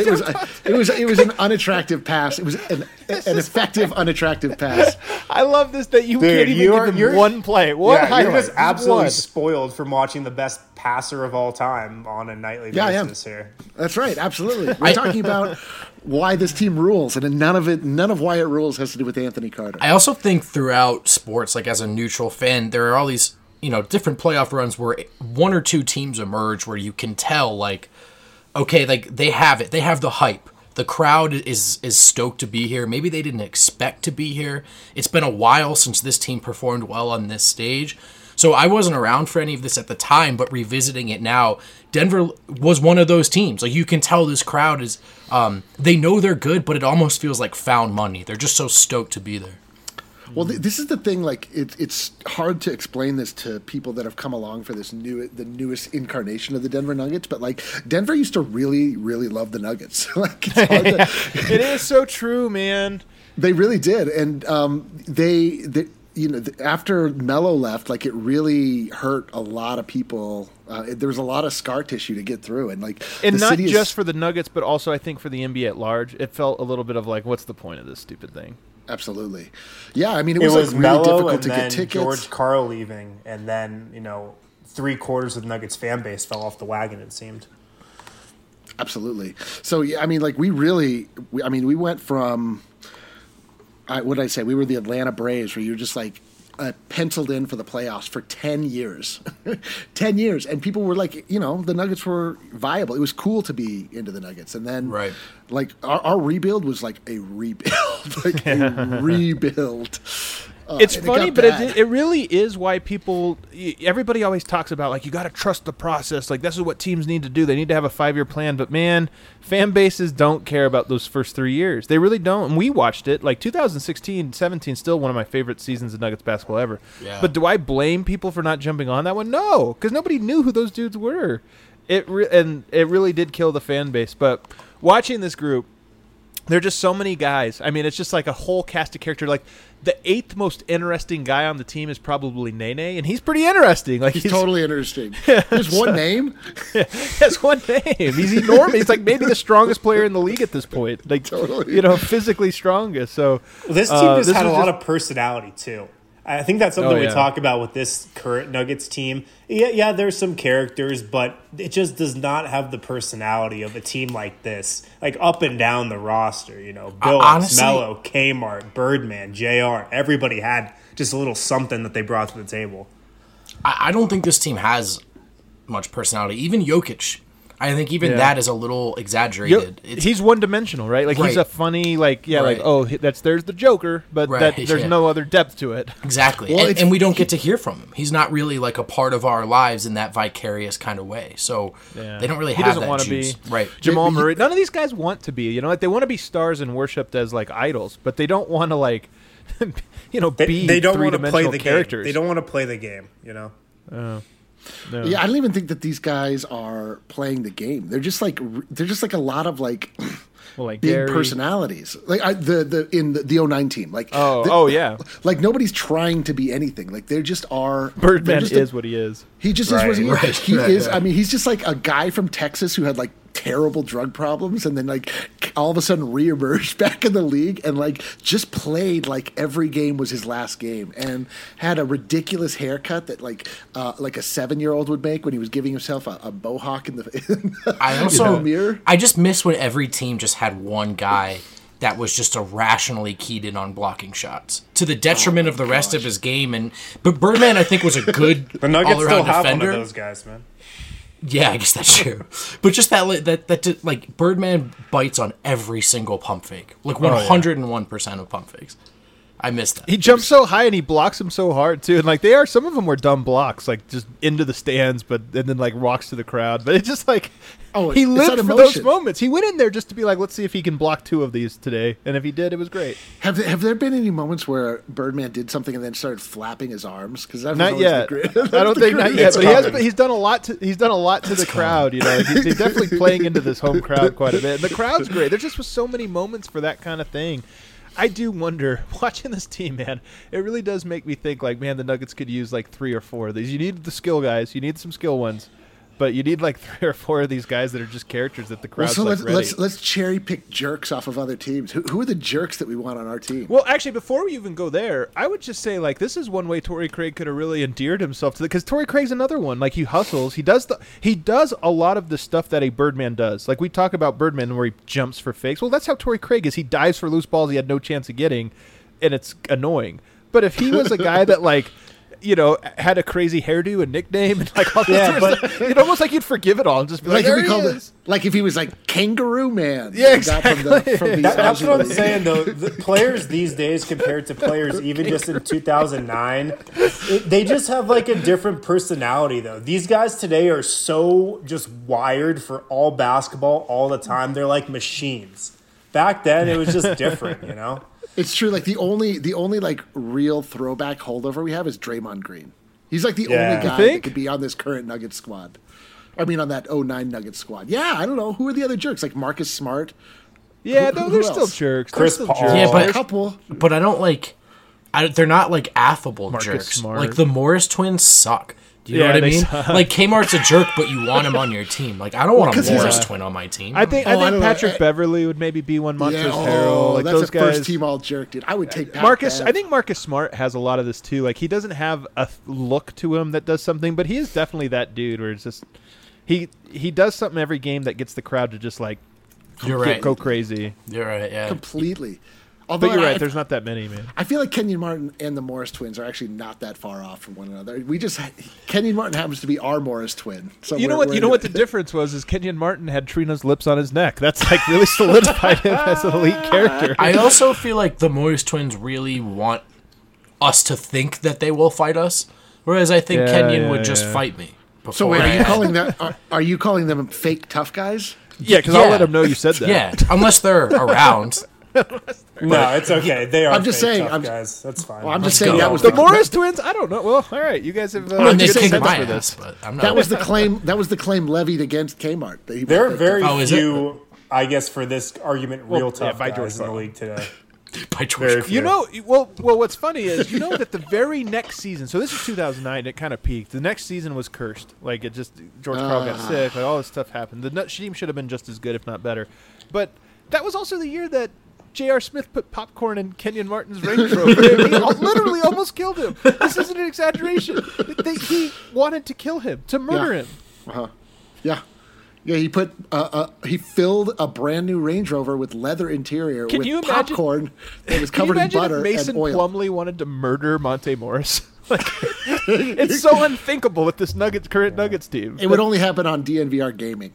Speaker 3: it was an unattractive pass. It was an effective unattractive pass.
Speaker 2: I love this that you
Speaker 1: Dude,
Speaker 2: can't even give him one play. One
Speaker 1: Yeah,
Speaker 2: highlight.
Speaker 1: you're just absolutely
Speaker 2: One.
Speaker 1: spoiled from watching the best passer of all time on a nightly
Speaker 3: Yeah, I am.
Speaker 1: basis here.
Speaker 3: That's right, absolutely. We're talking about why this team rules, and none of why it rules has to do with Anthony Carter.
Speaker 4: I also think throughout sports, like as a neutral fan, there are all these, different playoff runs where one or two teams emerge where you can tell, like, okay, like they have it. They have the hype. The crowd is stoked to be here. Maybe they didn't expect to be here. It's been a while since this team performed well on this stage. So I wasn't around for any of this at the time, but revisiting it now, Denver was one of those teams. Like you can tell this crowd is, they know they're good, but it almost feels like found money. They're just so stoked to be there.
Speaker 3: Well, this is the thing. Like, it's hard to explain this to people that have come along for the newest incarnation of the Denver Nuggets. But like, Denver used to really, really love the Nuggets. Like, it's hard to,
Speaker 2: It is so true, man.
Speaker 3: they really did, and they after Melo left, like it really hurt a lot of people. There was a lot of scar tissue to get through, and like,
Speaker 2: And
Speaker 3: the
Speaker 2: not
Speaker 3: city
Speaker 2: just for the Nuggets, but also I think for the NBA at large, it felt a little bit of like, what's the point of this stupid thing?
Speaker 3: Absolutely. Yeah, I mean, it
Speaker 1: It
Speaker 3: was,
Speaker 1: was
Speaker 3: like really
Speaker 1: Melo
Speaker 3: difficult
Speaker 1: and
Speaker 3: to
Speaker 1: then
Speaker 3: get tickets.
Speaker 1: George Karl leaving, and then 3/4 of the Nuggets fan base fell off the wagon. It seemed.
Speaker 3: Absolutely. So yeah, I mean, like we went from what did I say? We were the Atlanta Braves, where you're just like penciled in for the playoffs for 10 years, 10 years, and people were like, the Nuggets were viable. It was cool to be into the Nuggets, and then like our rebuild was like a rebuild, like a rebuild.
Speaker 2: It's funny, but it really is why everybody always talks about, like, you got to trust the process. Like, this is what teams need to do. They need to have a 5-year plan. But, man, fan bases don't care about those first 3 years. They really don't. And we watched it. Like, 2016-17 still one of my favorite seasons of Nuggets basketball ever. Yeah. But do I blame people for not jumping on that one? No, because nobody knew who those dudes were. And it really did kill the fan base. But watching this group, there are just so many guys. I mean, it's just like a whole cast of characters. Like, the 8th most interesting guy on the team is probably Nene, and he's pretty interesting. Like
Speaker 3: he's totally interesting. There's one name.
Speaker 2: Yeah, has one name. He's enormous. He's like maybe the strongest player in the league at this point. Like totally. Physically strongest. So
Speaker 1: this team just had a lot of personality too. I think that's something we talk about with this current Nuggets team. Yeah, there's some characters, but it just does not have the personality of a team like this. Like up and down the roster, Billups, Melo, Kmart, Birdman, JR. Everybody had just a little something that they brought to the table.
Speaker 4: I don't think this team has much personality. Even Jokic. I think that is a little exaggerated.
Speaker 2: He's one-dimensional, right? Like he's a funny, there's the Joker, but there's no other depth to it.
Speaker 4: Exactly, well, and we don't get to hear from him. He's not really like a part of our lives in that vicarious kind of way. So they don't really have that juice. Be. Right,
Speaker 2: Jamal Murray. None of these guys want to be. Like they want to be stars and worshipped as like idols, but they don't want to be
Speaker 1: they don't want to play the
Speaker 2: characters.
Speaker 1: Game. They don't want to play the game.
Speaker 3: No. Yeah, I don't even think that these guys are playing the game. They're just like a lot of big
Speaker 2: Gary.
Speaker 3: personalities. Like the 09 team. Like
Speaker 2: yeah.
Speaker 3: Like nobody's trying to be anything. Like they just are.
Speaker 2: Birdman is what he is.
Speaker 3: He just is what he is. He is. I mean, he's just like a guy from Texas who had like terrible drug problems and then like all of a sudden reemerged back in the league and like just played like every game was his last game and had a ridiculous haircut that like a 7-year-old would make when he was giving himself a mohawk in the mirror.
Speaker 4: I just miss when every team just had one guy that was just irrationally keyed in on blocking shots to the detriment of the rest of his game. But Birdman, I think, was a good
Speaker 1: the Nuggets
Speaker 4: all-around
Speaker 1: still have
Speaker 4: defender.
Speaker 1: One of those guys, man.
Speaker 4: Yeah, I guess that's true. But just that Birdman bites on every single pump fake, like 101% of pump fakes. I missed that.
Speaker 2: He jumps so high and he blocks them so hard too. And like some of them were dumb blocks, like just into the stands, and then like walks to the crowd. But it's just like he lived for those moments. He went in there just to be like, let's see if he can block 2 of these today. And if he did, it was great.
Speaker 3: Have there been any moments where Birdman did something and then started flapping his arms? Because
Speaker 2: not yet. I don't think not yet. But he's done a lot to the crowd. He's definitely playing into this home crowd quite a bit. And the crowd's great. There just was so many moments for that kind of thing. I do wonder, watching this team, man, it really does make me think, like, man, the Nuggets could use, 3 or 4 of these. You need the skill guys. You need some skill ones. But you need, 3 or 4 of these guys that are just characters that the crowd's, ready.
Speaker 3: Let's cherry-pick jerks off of other teams. Who are the jerks that we want on our team?
Speaker 2: Well, actually, before we even go there, I would just say, this is one way Torrey Craig could have really endeared himself to because Torrey Craig's another one. Like, he hustles. He does a lot of the stuff that a Birdman does. Like, we talk about Birdman where he jumps for fakes. Well, that's how Torrey Craig is. He dives for loose balls he had no chance of getting, and it's annoying. But if he was a guy that, had a crazy hairdo and nickname and all this but almost like you'd forgive it all and just be like, there he is.
Speaker 3: Like if he was like Kangaroo Man.
Speaker 2: Yeah, exactly.
Speaker 1: That's what I'm saying, though. The players these days compared to players even just in 2009, they just have a different personality, though. These guys today are so just wired for all basketball all the time. They're like machines. Back then, it was just different,
Speaker 3: It's true. Like the only real throwback holdover we have is Draymond Green. He's the only guy that could be on this current Nuggets squad. I mean, on that 09 Nuggets squad. Yeah, I don't know. Who are the other jerks? Like Marcus Smart?
Speaker 2: Yeah, they're still jerks.
Speaker 1: Chris Paul.
Speaker 4: Yeah, but
Speaker 3: a couple.
Speaker 4: But I don't they're not affable
Speaker 2: Marcus
Speaker 4: jerks.
Speaker 2: Smart.
Speaker 4: The Morris twins suck. Do you know what I
Speaker 2: they
Speaker 4: mean?
Speaker 2: suck.
Speaker 4: Like Kmart's a jerk, but you want him on your team. Like I don't want a
Speaker 3: 'cause he's
Speaker 4: Morris
Speaker 3: a-
Speaker 4: twin on my team.
Speaker 2: I think
Speaker 3: I don't know.
Speaker 2: Patrick Beverly would maybe be one. Montrezl
Speaker 3: Yeah,
Speaker 2: Harrell, like
Speaker 3: that's
Speaker 2: those
Speaker 3: a
Speaker 2: guys.
Speaker 3: first team all jerk, dude. I would take Pat
Speaker 2: Marcus,
Speaker 3: Bev.
Speaker 2: I think Marcus Smart has a lot of this too. Like he doesn't have a look to him that does something, but he is definitely that dude where it's just he does something every game that gets the crowd to just like
Speaker 4: You're right.
Speaker 2: go crazy.
Speaker 4: You're right. Yeah.
Speaker 3: completely. Although
Speaker 2: But you're right.
Speaker 3: I,
Speaker 2: There's not that many, man.
Speaker 3: I feel like Kenyon Martin and the Morris twins are actually not that far off from one another. Kenyon Martin happens to be our Morris twin. So
Speaker 2: You know what? You know what the difference was is Kenyon Martin had Trina's lips on his neck. That's like really solidified him as an elite character.
Speaker 4: I also feel like the Morris twins really want us to think that they will fight us, whereas I think Kenyon would just fight me.
Speaker 3: So wait, are you
Speaker 4: beforehand.
Speaker 3: calling that? Are you calling them fake tough guys?
Speaker 2: Yeah, because I'll let him know you said that.
Speaker 4: Yeah, unless they're around.
Speaker 1: No, it's okay. They are.
Speaker 3: I'm just
Speaker 1: fake
Speaker 3: saying,
Speaker 1: tough
Speaker 3: I'm-
Speaker 1: guys. That's fine.
Speaker 3: Well, I'm just
Speaker 4: Let's
Speaker 3: saying
Speaker 4: go.
Speaker 3: that was
Speaker 2: The
Speaker 3: the
Speaker 2: Morris twins? I don't know. Well, all right. You guys have.
Speaker 4: I mean, they
Speaker 3: just
Speaker 4: kicked
Speaker 3: saying
Speaker 4: my
Speaker 3: that's
Speaker 2: for
Speaker 4: ass,
Speaker 2: this.
Speaker 4: but I'm not.
Speaker 3: That was the claim. That was the claim levied against Kmart. That he
Speaker 1: There are
Speaker 3: was
Speaker 1: very
Speaker 4: Oh, is it?
Speaker 1: few, I guess, for this argument, real tough
Speaker 2: by
Speaker 1: guys
Speaker 2: George
Speaker 1: in the
Speaker 2: Karl.
Speaker 1: league today.
Speaker 4: by George.
Speaker 1: Very
Speaker 4: Karl.
Speaker 1: few.
Speaker 2: You know, well, what's funny is you know that the very next season. So this is 2009. It kind of peaked. The next season was cursed. Like it just George Karl got sick. Like all this stuff happened. The team should have been just as good, if not better. But that was also the year that J.R. Smith put popcorn in Kenyon Martin's Range Rover. He literally almost killed him. This isn't an exaggeration. He wanted to kill him, to murder him.
Speaker 3: Yeah. Yeah, he put he filled a brand new Range Rover with leather interior
Speaker 2: Can
Speaker 3: with
Speaker 2: you imagine-
Speaker 3: popcorn that was
Speaker 2: Can you
Speaker 3: covered in
Speaker 2: imagine
Speaker 3: butter
Speaker 2: if Mason
Speaker 3: and oil.
Speaker 2: Plumlee wanted to murder Monte Morris? Like, it's so unthinkable with this current Nuggets team.
Speaker 3: It would only happen on DNVR Gaming.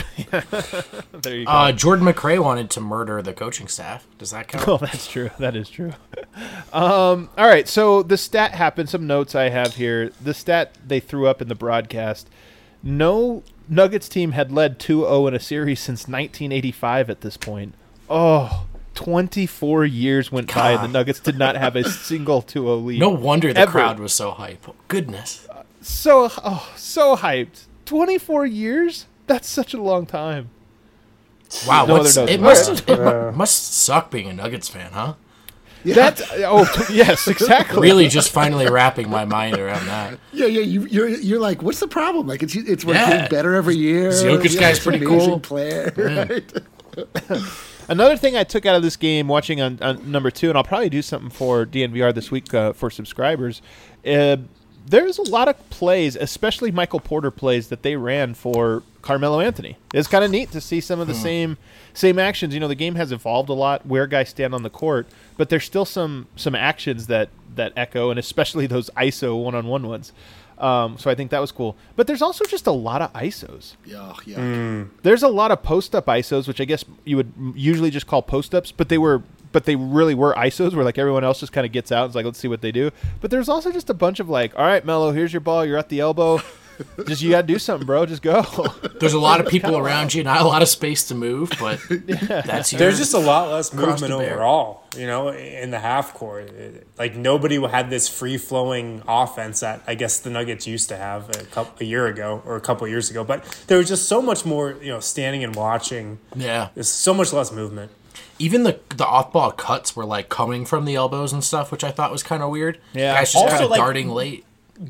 Speaker 2: There you go.
Speaker 4: Jordan McRae wanted to murder the coaching staff. Does that count?
Speaker 2: Oh, that's true. That is true. All right. So the stat happened. Some notes I have here. The stat they threw up in the broadcast. No Nuggets team had led 2-0 in a series since 1985 at this point. Oh, 24 years went by and the Nuggets did not have a single 2-0 lead.
Speaker 4: No wonder the
Speaker 2: Ever.
Speaker 4: crowd was so hype. Goodness.
Speaker 2: So hyped. 24 years? That's such a long time.
Speaker 4: Wow.
Speaker 2: No
Speaker 4: What's,
Speaker 2: other
Speaker 4: it
Speaker 2: notes.
Speaker 4: must suck being a Nuggets fan, huh?
Speaker 3: Yeah,
Speaker 2: Yes, exactly.
Speaker 4: Really just finally wrapping my mind around that.
Speaker 3: yeah. You're like, what's the problem? Like it's
Speaker 4: Yeah.
Speaker 3: getting better every year.
Speaker 4: Jokic
Speaker 3: Yeah,
Speaker 4: guy's
Speaker 3: it's
Speaker 4: pretty
Speaker 3: amazing
Speaker 4: cool.
Speaker 3: Player, right?
Speaker 2: Another thing I took out of this game, watching on number 2, and I'll probably do something for DNVR this week for subscribers. There's a lot of plays, especially Michael Porter plays that they ran for Carmelo Anthony. It's kind of neat to see some of the same actions. You know, the game has evolved a lot where guys stand on the court, but there's still some actions that echo, and especially those ISO one-on-one ones. So I think that was cool. But there's also just a lot of ISOs.
Speaker 3: Yeah.
Speaker 2: There's a lot of post-up ISOs, which I guess you would usually just call post-ups, but they really were ISOs where like everyone else just kind of gets out and is like, let's see what they do. But there's also just a bunch of like, all right, Melo, here's your ball. You're at the elbow. Just you got to do something, bro. Just go.
Speaker 4: There's a lot of people around you, not a lot of space to move, but that's your,
Speaker 1: There's just a lot less
Speaker 4: Cross
Speaker 1: movement
Speaker 4: to bear.
Speaker 1: overall, you know, in the half court. Like nobody had this free-flowing offense that I guess the Nuggets used to have a year ago or a couple years ago. But there was just so much more, you know, standing and watching.
Speaker 4: Yeah.
Speaker 1: There's so much less movement.
Speaker 4: Even the off-ball cuts were like coming from the elbows and stuff, which I thought was kind of weird.
Speaker 2: Yeah.
Speaker 4: Guys just
Speaker 1: Also,
Speaker 4: kind of
Speaker 1: like-
Speaker 4: darting late.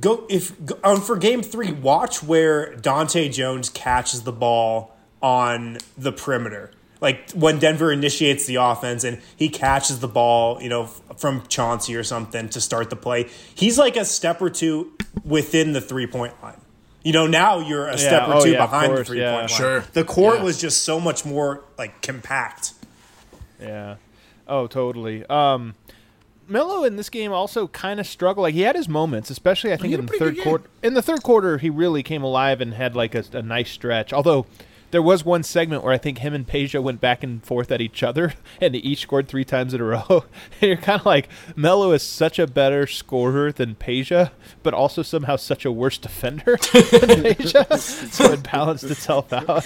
Speaker 1: For Game 3, watch where Dante Jones catches the ball on the perimeter. Like when Denver initiates the offense and he catches the ball, you know, from Chauncey or something to start the play. He's like a step or two within the 3-point line. You know, now you're a step or two behind the 3-point line.
Speaker 4: Sure.
Speaker 1: The court
Speaker 4: Yeah.
Speaker 1: was just so much more like compact.
Speaker 2: Yeah. Oh, totally. Melo in this game also kind of struggled. Like he had his moments, especially I think
Speaker 3: had
Speaker 2: in
Speaker 3: a
Speaker 2: the
Speaker 3: pretty
Speaker 2: third
Speaker 3: good
Speaker 2: quarter. In the third quarter, he really came alive and had like a nice stretch. Although there was one segment where I think him and Peja went back and forth at each other, and they each scored 3 times in a row. And you're kind of like, Melo is such a better scorer than Peja, but also somehow such a worse defender than Peja. So it balanced itself out.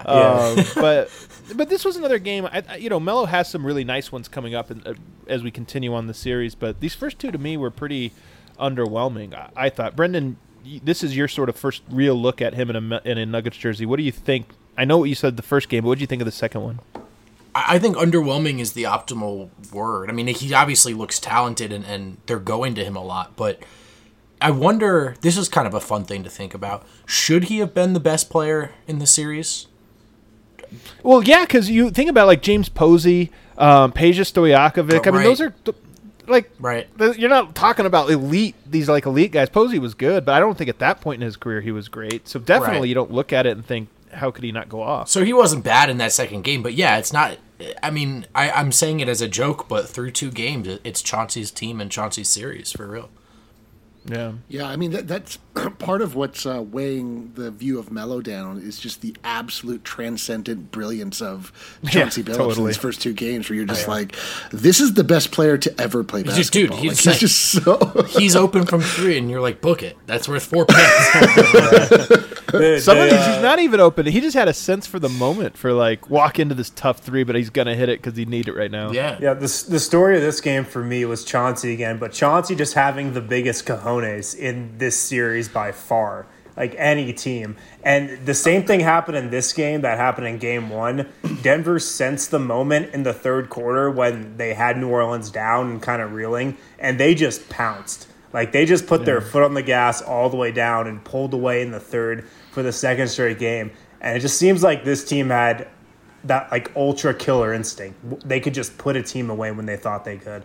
Speaker 2: But this was another game. Melo has some really nice ones coming up as we continue on the series. But these first 2 to me were pretty underwhelming. I thought, Brendan, this is your sort of first real look at him in a Nuggets jersey. What do you think? I know what you said the first game, but what do you think of the second one?
Speaker 4: I think underwhelming is the optimal word. I mean, he obviously looks talented and they're going to him a lot, but I wonder, this is kind of a fun thing to think about. Should he have been the best player in the series?
Speaker 2: Well, yeah, because you think about like James Posey, Peja Stojakovic. I mean, those are like
Speaker 4: right.
Speaker 2: You're not talking about elite. These like elite guys. Posey was good, but I don't think at that point in his career he was great. So definitely you don't look at it and think, how could he not go off?
Speaker 4: So he wasn't bad in that second game, but yeah, it's not. I mean, I'm saying it as a joke, but through 2 games, it's Chauncey's team and Chauncey's series for real.
Speaker 2: Yeah.
Speaker 3: Yeah, I mean, that's part of what's weighing the view of Melo down is just the absolute transcendent brilliance of Chauncey Billups in his first 2 games, where you're just like, this is the best player to ever play basketball.
Speaker 4: Dude,
Speaker 3: he's just so...
Speaker 4: he's open from 3, and you're like, book it. That's worth 4 picks.
Speaker 2: Some of these, he's not even open. He just had a sense for the moment for, like, walk into this tough 3, but he's going to hit it because he need it right now.
Speaker 4: Yeah.
Speaker 1: Yeah, the story of this game for me was Chauncey again, but Chauncey just having the biggest cojones in this series by far, like any team. And the same thing happened in this game that happened in game 1. Denver sensed the moment in the third quarter when they had New Orleans down and kind of reeling, and they just pounced. Like, they just put their foot on the gas all the way down and pulled away in the third for the second straight game. And it just seems like this team had that, like, ultra killer instinct. They could just put a team away when they thought they could.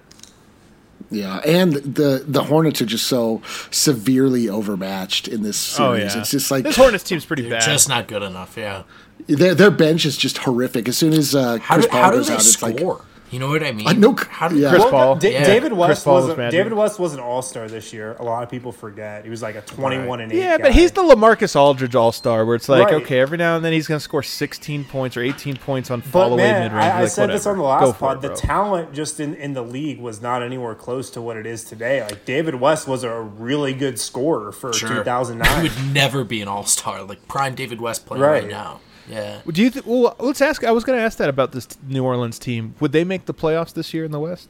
Speaker 3: Yeah, and the Hornets are just so severely overmatched in this series.
Speaker 2: Oh, yeah.
Speaker 3: It's just like...
Speaker 2: This Hornets team's pretty
Speaker 4: They're
Speaker 2: bad.
Speaker 4: just not good enough, yeah.
Speaker 3: Their bench is just horrific. As soon as Chris Paul goes out, it's like...
Speaker 4: You know what I mean?
Speaker 3: How do
Speaker 2: Chris Paul.
Speaker 1: David West
Speaker 2: Paul
Speaker 1: was an all-star this year. A lot of people forget. He was like a 21-8
Speaker 2: Yeah,
Speaker 1: guy.
Speaker 2: but he's the LaMarcus Aldridge all-star, where it's like,
Speaker 1: Right.
Speaker 2: okay, every now and then he's going to score 16 points or 18 points on fall-away mid-range.
Speaker 1: I
Speaker 2: like,
Speaker 1: said this
Speaker 2: whatever.
Speaker 1: on the last
Speaker 2: Go for
Speaker 1: pod.
Speaker 2: it,
Speaker 1: The
Speaker 2: bro.
Speaker 1: talent just in the league was not anywhere close to what it is today. Like, David West was a really good scorer for 2009.
Speaker 4: He would never be an all-star, like prime David West player right now. Yeah.
Speaker 2: Do you? Well, let's ask. I was going to ask that about this New Orleans team. Would they make the playoffs this year in the West?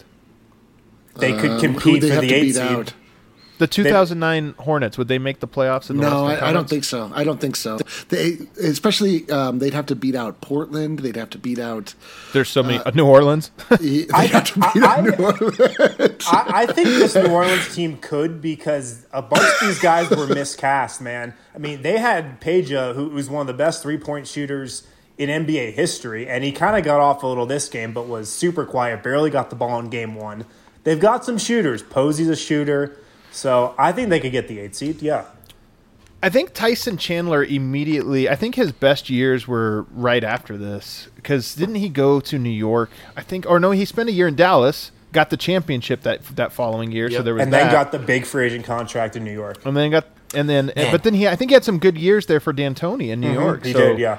Speaker 1: They could
Speaker 3: who
Speaker 1: compete
Speaker 3: they
Speaker 1: for
Speaker 3: have
Speaker 1: the
Speaker 3: to
Speaker 1: 8
Speaker 3: beat
Speaker 1: seed.
Speaker 3: out?
Speaker 2: The 2009 Hornets, would they make the playoffs in the
Speaker 3: No,
Speaker 2: Western
Speaker 3: I don't
Speaker 2: Conference?
Speaker 3: think so. I don't think so. They, especially, they'd have to beat out Portland. They'd have to beat out.
Speaker 2: There's so many. New Orleans?
Speaker 3: They'd have to beat out New Orleans.
Speaker 1: I think this New Orleans team could, because a bunch of these guys were miscast, man. I mean, they had Peja, who was one of the best three-point shooters in NBA history, and he kind of got off a little this game, but was super quiet, barely got the ball in game 1. They've got some shooters. Posey's a shooter, so I think they could get the 8 seed, yeah.
Speaker 2: I think Tyson Chandler immediately, I think his best years were right after this, because didn't he go to New York? I think, or no, he spent a year in Dallas, got the championship that following year, so there was
Speaker 1: and
Speaker 2: that.
Speaker 1: then got the big free agent contract in New York.
Speaker 2: And then but then I think he had some good years there for D'Antoni in New York.
Speaker 1: He
Speaker 2: so
Speaker 1: did, yeah.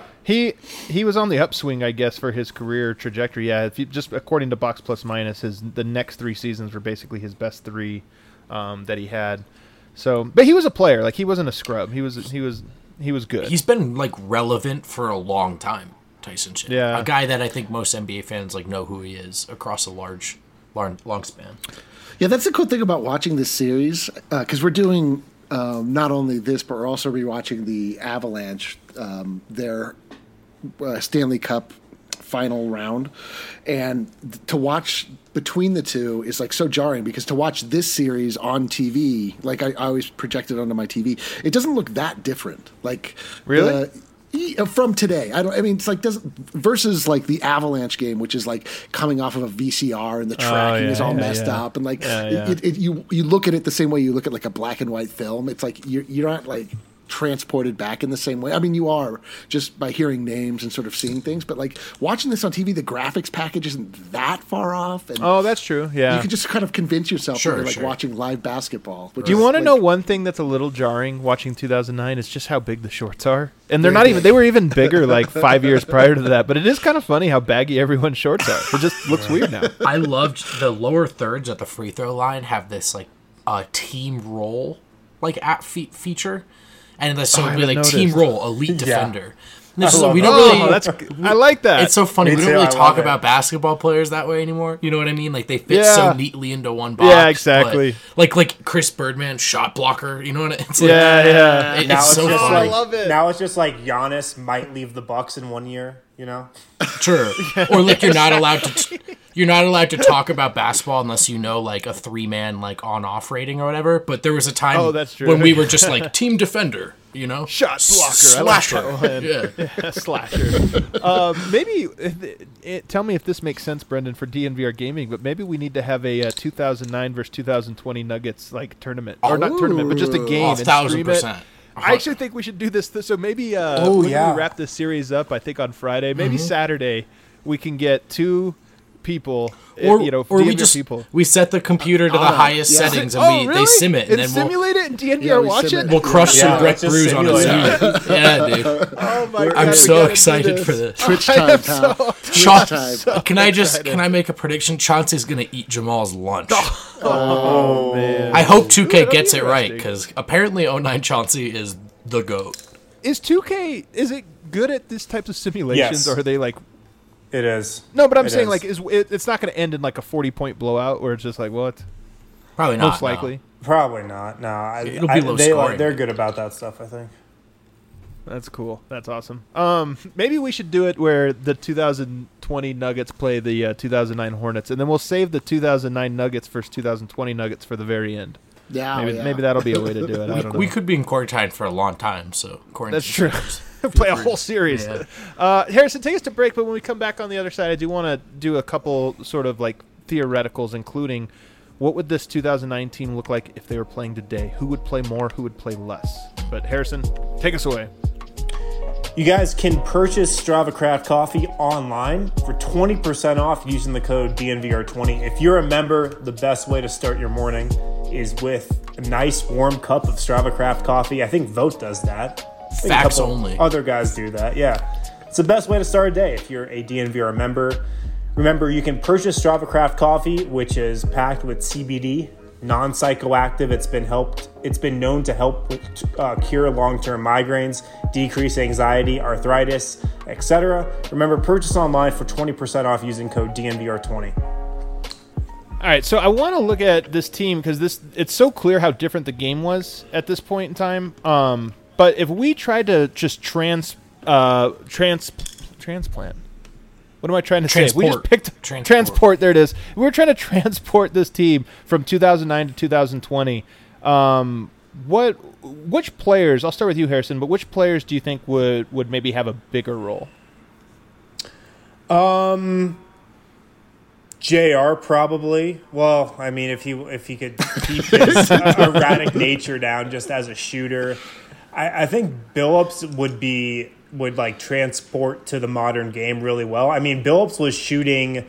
Speaker 2: He was on the upswing, I guess, for his career trajectory. Yeah, if you, just according to Box Plus Minus, the next 3 seasons were basically his best 3 that he had. So, but he was a player. Like, he wasn't a scrub. He was good.
Speaker 4: He's been like relevant for a long time, Tyson Chandler.
Speaker 2: Yeah.
Speaker 4: A guy that I think most NBA fans like know who he is across a long span.
Speaker 3: Yeah, that's the cool thing about watching this series, because we're doing not only this, but we're also rewatching the Avalanche, their Stanley Cup final round, and to watch between the two is like so jarring, because to watch this series on TV, like I always project it onto my TV, it doesn't look that different. Like,
Speaker 2: Really?
Speaker 3: From today, I mean, it's like versus like the Avalanche game, which is like coming off of a VCR and the tracking is all messed up, and like you look at it the same way you look at like a black and white film. It's like you're not like transported back in the same way. I mean, you are just by hearing names and sort of seeing things, but like watching this on TV, the graphics package isn't that far off. And
Speaker 2: oh, that's true. Yeah,
Speaker 3: you can just kind of convince yourself that you're like watching live basketball.
Speaker 2: Do you want to know one thing that's a little jarring watching 2009 is just how big the shorts are? And they're not even, they were even bigger like 5 years prior to that, but it is kind of funny how baggy everyone's shorts are. It just looks weird now.
Speaker 4: I loved the lower thirds at the free throw line have this like team roll like feature. And so it'd be like team roll, elite defender. And we don't really.
Speaker 2: I like that.
Speaker 4: It's so funny.
Speaker 1: Me
Speaker 4: We
Speaker 1: too,
Speaker 4: don't really
Speaker 1: I
Speaker 4: talk
Speaker 1: love
Speaker 4: about basketball players that way anymore. You know what I mean? Like they fit so neatly into one box.
Speaker 2: Yeah, exactly.
Speaker 4: Like Chris Birdman, shot blocker. You know what? It's like,
Speaker 2: yeah.
Speaker 1: Now
Speaker 4: It's so funny.
Speaker 1: I love it. Now it's just like Giannis might leave the Bucks in 1 year. You know,
Speaker 4: Sure. Or like you're not allowed to. you're not allowed to talk about basketball unless you know like a 3-man like on-off rating or whatever. But there was a time
Speaker 2: that's true.
Speaker 4: when we were just like team defender, you know,
Speaker 2: shot blocker,
Speaker 4: slasher.
Speaker 2: I like that one. Yeah, slasher. Maybe tell me if this makes sense, Brendan, for DNVR gaming. But maybe we need to have a 2009 versus 2020 Nuggets like tournament, or not tournament, but just a game.
Speaker 4: 1,000%.
Speaker 2: I actually think we should do this. So maybe when we wrap this series up, I think on Friday, maybe Saturday, we can get 2 people,
Speaker 4: or
Speaker 2: DNVR
Speaker 4: we just
Speaker 2: people.
Speaker 4: we set the computer to the highest settings and
Speaker 2: really?
Speaker 4: they sim it and then
Speaker 2: simulate it and DNVR
Speaker 3: we
Speaker 2: watch
Speaker 3: sim
Speaker 2: it.
Speaker 3: it.
Speaker 4: we'll crush some Breck
Speaker 1: let's just
Speaker 4: Brews on a
Speaker 1: simulate
Speaker 4: Zoom. Yeah, dude.
Speaker 2: Oh my god!
Speaker 4: I'm
Speaker 2: we
Speaker 4: so
Speaker 2: gotta do
Speaker 4: excited
Speaker 2: this.
Speaker 4: for this.
Speaker 3: Twitch time, pal.
Speaker 4: Cha-
Speaker 3: Twitch time.
Speaker 4: Can I make a prediction? Chauncey's gonna eat Jamal's lunch.
Speaker 2: Oh man!
Speaker 4: I hope 2K
Speaker 2: that'll
Speaker 4: gets
Speaker 2: be
Speaker 4: it right
Speaker 2: interesting.
Speaker 4: because apparently 09 Chauncey is the GOAT.
Speaker 2: Is 2K is it good at this types of simulations,
Speaker 1: Yes.
Speaker 2: or are they like?
Speaker 1: It is.
Speaker 2: No, but I'm
Speaker 1: It
Speaker 2: saying
Speaker 1: is.
Speaker 2: like it's not going to end in like a 40-point blowout where it's just like what?
Speaker 4: Probably not.
Speaker 2: Most likely.
Speaker 1: Probably not. No,
Speaker 4: It'll be low scoring.
Speaker 1: They're good about that stuff, I think.
Speaker 2: That's cool. That's awesome. Maybe we should do it where the 2020 Nuggets play the 2009 Hornets, and then we'll save the 2009 Nuggets versus 2020 Nuggets for the very end.
Speaker 3: Yeah,
Speaker 2: Maybe that'll be a way to do it. I don't know.
Speaker 4: We could be in quarantine for a long time, so quarantine.
Speaker 2: That's true.
Speaker 4: sucks.
Speaker 2: Play a whole series.
Speaker 4: Yeah.
Speaker 2: Harrison, take us to break, but when we come back on the other side, I do want to do a couple sort of like theoreticals, including what would this 2019 look like if they were playing today? Who would play more? Who would play less? But Harrison, take us away.
Speaker 1: You guys can purchase Strava Craft Coffee online for 20% off using the code DNVR20. If you're a member, the best way to start your morning is with a nice warm cup of Strava Craft Coffee. I think Vote does that. I think a
Speaker 4: Facts
Speaker 1: couple
Speaker 4: only.
Speaker 1: Other guys do that, yeah. It's the best way to start a day if you're a DNVR member. Remember, you can purchase Strava Craft Coffee, which is packed with CBD, non-psychoactive. It's been known to help cure long-term migraines, decrease anxiety, arthritis, etc. Remember, purchase online for 20% off using code DNVR20.
Speaker 2: All right, so I want to look at this team because it's so clear how different the game was at this point in time. But if we tried to just transplant, what am I trying to say? If we just picked transport. There it is. We were trying to transport this team from 2009 to 2020. Which players? I'll start with you, Harrison. But which players do you think would maybe have a bigger role?
Speaker 1: JR probably. Well, I mean, if he could keep his erratic nature down just as a shooter, I think Billups would like transport to the modern game really well. I mean, Billups was shooting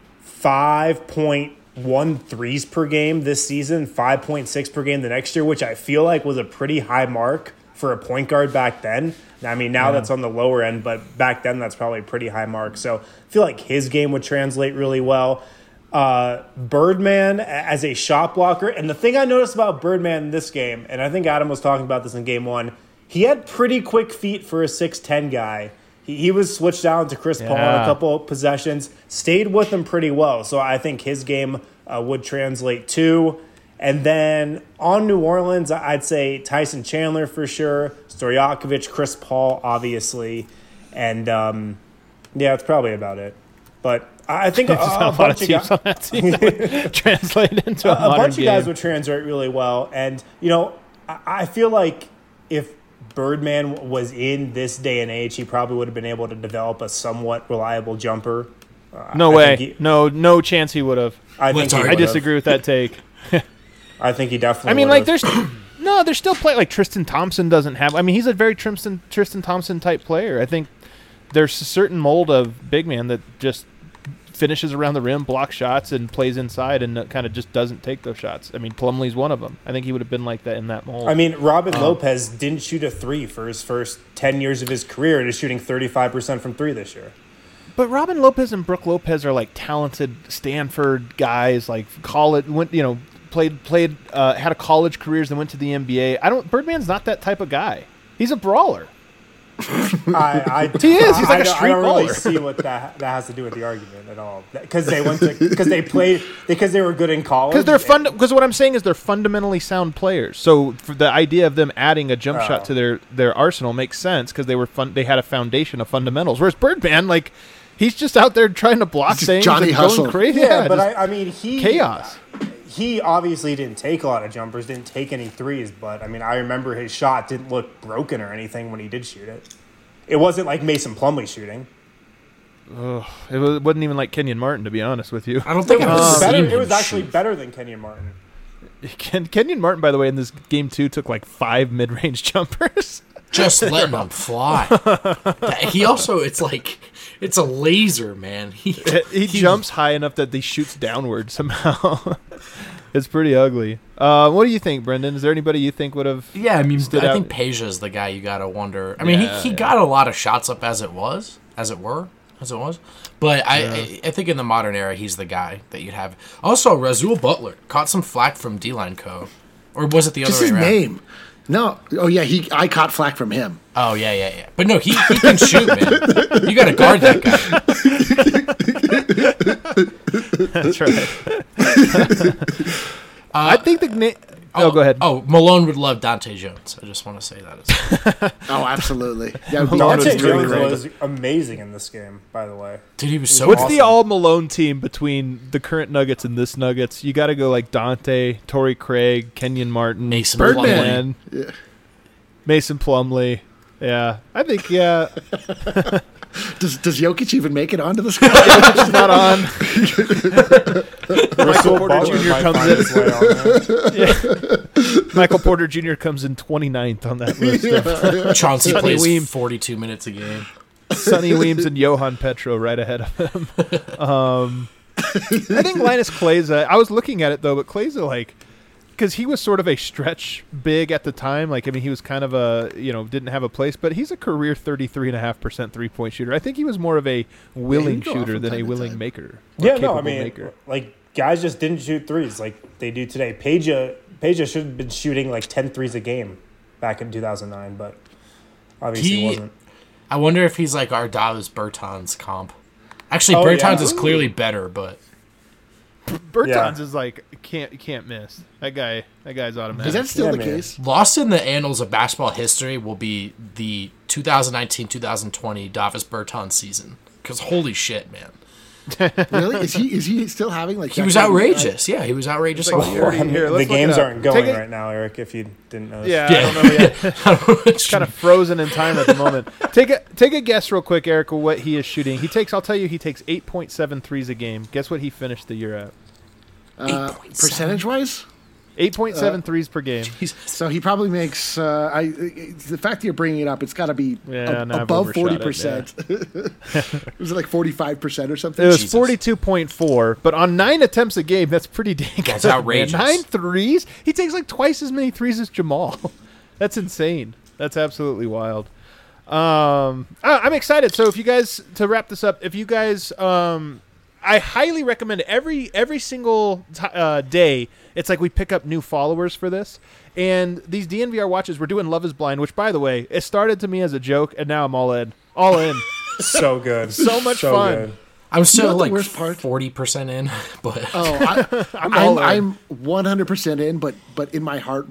Speaker 1: 5.1 threes per game this season, 5.6 per game the next year, which I feel like was a pretty high mark for a point guard back then. I mean, now that's on the lower end, but back then that's probably a pretty high mark. So I feel like his game would translate really well. Birdman as a shot blocker. And the thing I noticed about Birdman in this game, and I think Adam was talking about this in game one, he had pretty quick feet for a 6'10 guy. He was switched down to Chris Paul on a couple of possessions, stayed with him pretty well. So I think his game would translate too. And then on New Orleans, I'd say Tyson Chandler for sure, Stojakovic, Chris Paul, obviously. And, that's probably about it. But I think a bunch of guys
Speaker 2: on that team that would translate into a modern
Speaker 1: bunch of guys
Speaker 2: game.
Speaker 1: would translate really well. And, I feel like if Birdman was in this day and age, he probably would have been able to develop a somewhat reliable jumper.
Speaker 2: No way. No chance he would have.
Speaker 1: I
Speaker 2: disagree with that take.
Speaker 1: I think he definitely
Speaker 2: I mean,
Speaker 1: would've.
Speaker 2: like, there's still play like Tristan Thompson doesn't have. I mean, he's a very Tristan Thompson type player. I think there's a certain mold of big man that just finishes around the rim, blocks shots, and plays inside, and kind of just doesn't take those shots. I mean, Plumlee's one of them. I think he would have been like that in that mold.
Speaker 1: I mean, Robin Lopez didn't shoot a three for his first 10 years of his career, and is shooting 35% from three this year.
Speaker 2: But Robin Lopez and Brooke Lopez are like talented Stanford guys, like college, played, had a college careers, then went to the NBA. Birdman's not that type of guy. He's a brawler.
Speaker 1: He is.
Speaker 2: He's like a street
Speaker 1: I don't really
Speaker 2: baller.
Speaker 1: see what that has to do with the argument at all. Because they were good in college.
Speaker 2: Because what I'm saying is they're fundamentally sound players. So for the idea of them adding a jump shot to their arsenal makes sense because they had a foundation of fundamentals. Whereas Birdman, like, He's just out there trying to block
Speaker 3: Just
Speaker 2: things
Speaker 3: Johnny
Speaker 2: and
Speaker 3: Hustle.
Speaker 2: going crazy.
Speaker 1: Yeah, but
Speaker 2: just
Speaker 1: I mean,
Speaker 2: chaos.
Speaker 1: He obviously didn't take a lot of jumpers, didn't take any threes, but I mean, I remember his shot didn't look broken or anything when he did shoot it. It wasn't like Mason Plumlee shooting.
Speaker 2: It wasn't even like Kenyon Martin, to be honest with you.
Speaker 4: I don't think I've seen him
Speaker 1: It was actually
Speaker 4: shoot.
Speaker 1: better than Kenyon Martin.
Speaker 2: Kenyon Martin, by the way, in this game 2 took like 5 mid-range jumpers.
Speaker 4: Just letting them fly. He also, it's a laser, man.
Speaker 2: He jumps high enough that he shoots downward somehow. It's pretty ugly. What do you think, Brendan? Is there anybody you think would have?
Speaker 4: Yeah, I mean,
Speaker 2: stood
Speaker 4: I
Speaker 2: out?
Speaker 4: think Peja's the guy you gotta wonder. I mean,
Speaker 2: Yeah,
Speaker 4: he got a lot of shots up as it was. But I think in the modern era, he's the guy that you'd have. Also, Razul Butler caught some flack from D-Line Co. Or was it the other
Speaker 3: Just
Speaker 4: way
Speaker 3: his
Speaker 4: around?
Speaker 3: name. No. Oh, yeah, I caught flack from him.
Speaker 4: Oh, yeah. But no, he can shoot, man. You got to guard that guy.
Speaker 2: That's right. I think the go ahead.
Speaker 4: Oh, Malone would love Dante Jones. I just want to say that as well.
Speaker 3: Oh, absolutely. Yeah,
Speaker 1: Dante
Speaker 2: really
Speaker 1: Jones
Speaker 2: great.
Speaker 1: was amazing in this game, by the way.
Speaker 4: Dude, he was so
Speaker 2: What's
Speaker 4: awesome.
Speaker 2: the all Malone team between the current Nuggets and this Nuggets? You got to go like Dante, Torrey Craig, Kenyon Martin,
Speaker 4: Mason
Speaker 3: Birdman.
Speaker 4: Plumlee.
Speaker 3: Yeah.
Speaker 2: Mason Plumlee. Yeah, I think
Speaker 3: Does Jokic even make it onto the squad?
Speaker 2: It's not on. Michael
Speaker 1: Russell
Speaker 2: Porter
Speaker 1: Butler
Speaker 2: Jr.
Speaker 1: might
Speaker 2: comes
Speaker 1: find
Speaker 2: in.
Speaker 1: his way on there.
Speaker 2: Michael Porter Jr. comes in 29th on that list.
Speaker 4: Chauncey
Speaker 2: Sonny
Speaker 4: plays
Speaker 2: Weem.
Speaker 4: 42 minutes a game.
Speaker 2: Sonny Weems and Johan Petro right ahead of him. I think Linus Kleza, I was looking at it though, but Kleza, like, because he was sort of a stretch big at the time. Like, I mean, he was kind of a, didn't have a place, but he's a career 33.5% 3-point shooter. I think he was more of a willing
Speaker 3: he'd go off
Speaker 2: shooter
Speaker 3: from
Speaker 2: than a
Speaker 3: time to
Speaker 2: willing
Speaker 3: time.
Speaker 2: maker.
Speaker 1: Yeah, no,
Speaker 2: capable
Speaker 1: I mean,
Speaker 2: maker.
Speaker 1: like, guys just didn't shoot threes like they do today. Peja should have been shooting like 10 threes a game back in 2009, but obviously
Speaker 4: He-
Speaker 1: wasn't.
Speaker 4: I wonder if he's like our Dallas Bertans comp. Actually,
Speaker 1: Oh,
Speaker 4: Bertans
Speaker 1: yeah.
Speaker 4: is clearly better, but
Speaker 2: Bertans
Speaker 1: Yeah.
Speaker 2: is like, can't miss. That guy's automatic.
Speaker 3: Is that still
Speaker 1: Yeah,
Speaker 3: the
Speaker 1: man.
Speaker 3: case?
Speaker 4: lost in the annals of basketball history will be the 2019-2020 Davis Bertans season. Because holy shit, man.
Speaker 3: Really? Is he still having like?
Speaker 4: He was outrageous. Yeah, he was outrageous
Speaker 2: It's like
Speaker 4: all year.
Speaker 2: 40 here.
Speaker 1: The
Speaker 2: Let's look
Speaker 1: games
Speaker 2: it up.
Speaker 1: aren't going
Speaker 2: Take it-
Speaker 1: right now, Eric, if you didn't notice.
Speaker 2: Yeah, I don't know yet. It's kind of frozen in time at the moment. Take a guess real quick, Eric, what he is shooting. I'll tell you, he takes 8.7 threes a game. Guess what he finished the year at?
Speaker 3: Percentage wise.
Speaker 2: 8.7 threes per game.
Speaker 3: So he probably makes. The fact that you're bringing it up, it's got to be
Speaker 2: Yeah, no, I've
Speaker 3: above
Speaker 2: overshot it,
Speaker 3: 40%. Was it like 45% or something?
Speaker 2: It was
Speaker 4: Jesus.
Speaker 2: 42.4, but on 9 attempts a game, that's pretty dang good.
Speaker 4: That's outrageous.
Speaker 2: Man. 9 threes? He takes like twice as many threes as Jamal. That's insane. That's absolutely wild. I'm excited. So if you guys, to wrap this up, if you guys, I highly recommend every single day. It's like we pick up new followers for this. And these DNVR watches, we're doing Love is Blind, which, by the way, it started to me as a joke, and now I'm all in. All in.
Speaker 1: So good.
Speaker 2: So much fun.
Speaker 1: good.
Speaker 4: I'm still
Speaker 3: know what the
Speaker 4: like
Speaker 3: worst part?
Speaker 4: 40% in, but
Speaker 3: Oh,
Speaker 2: all in.
Speaker 3: I'm 100% in, but in my heart,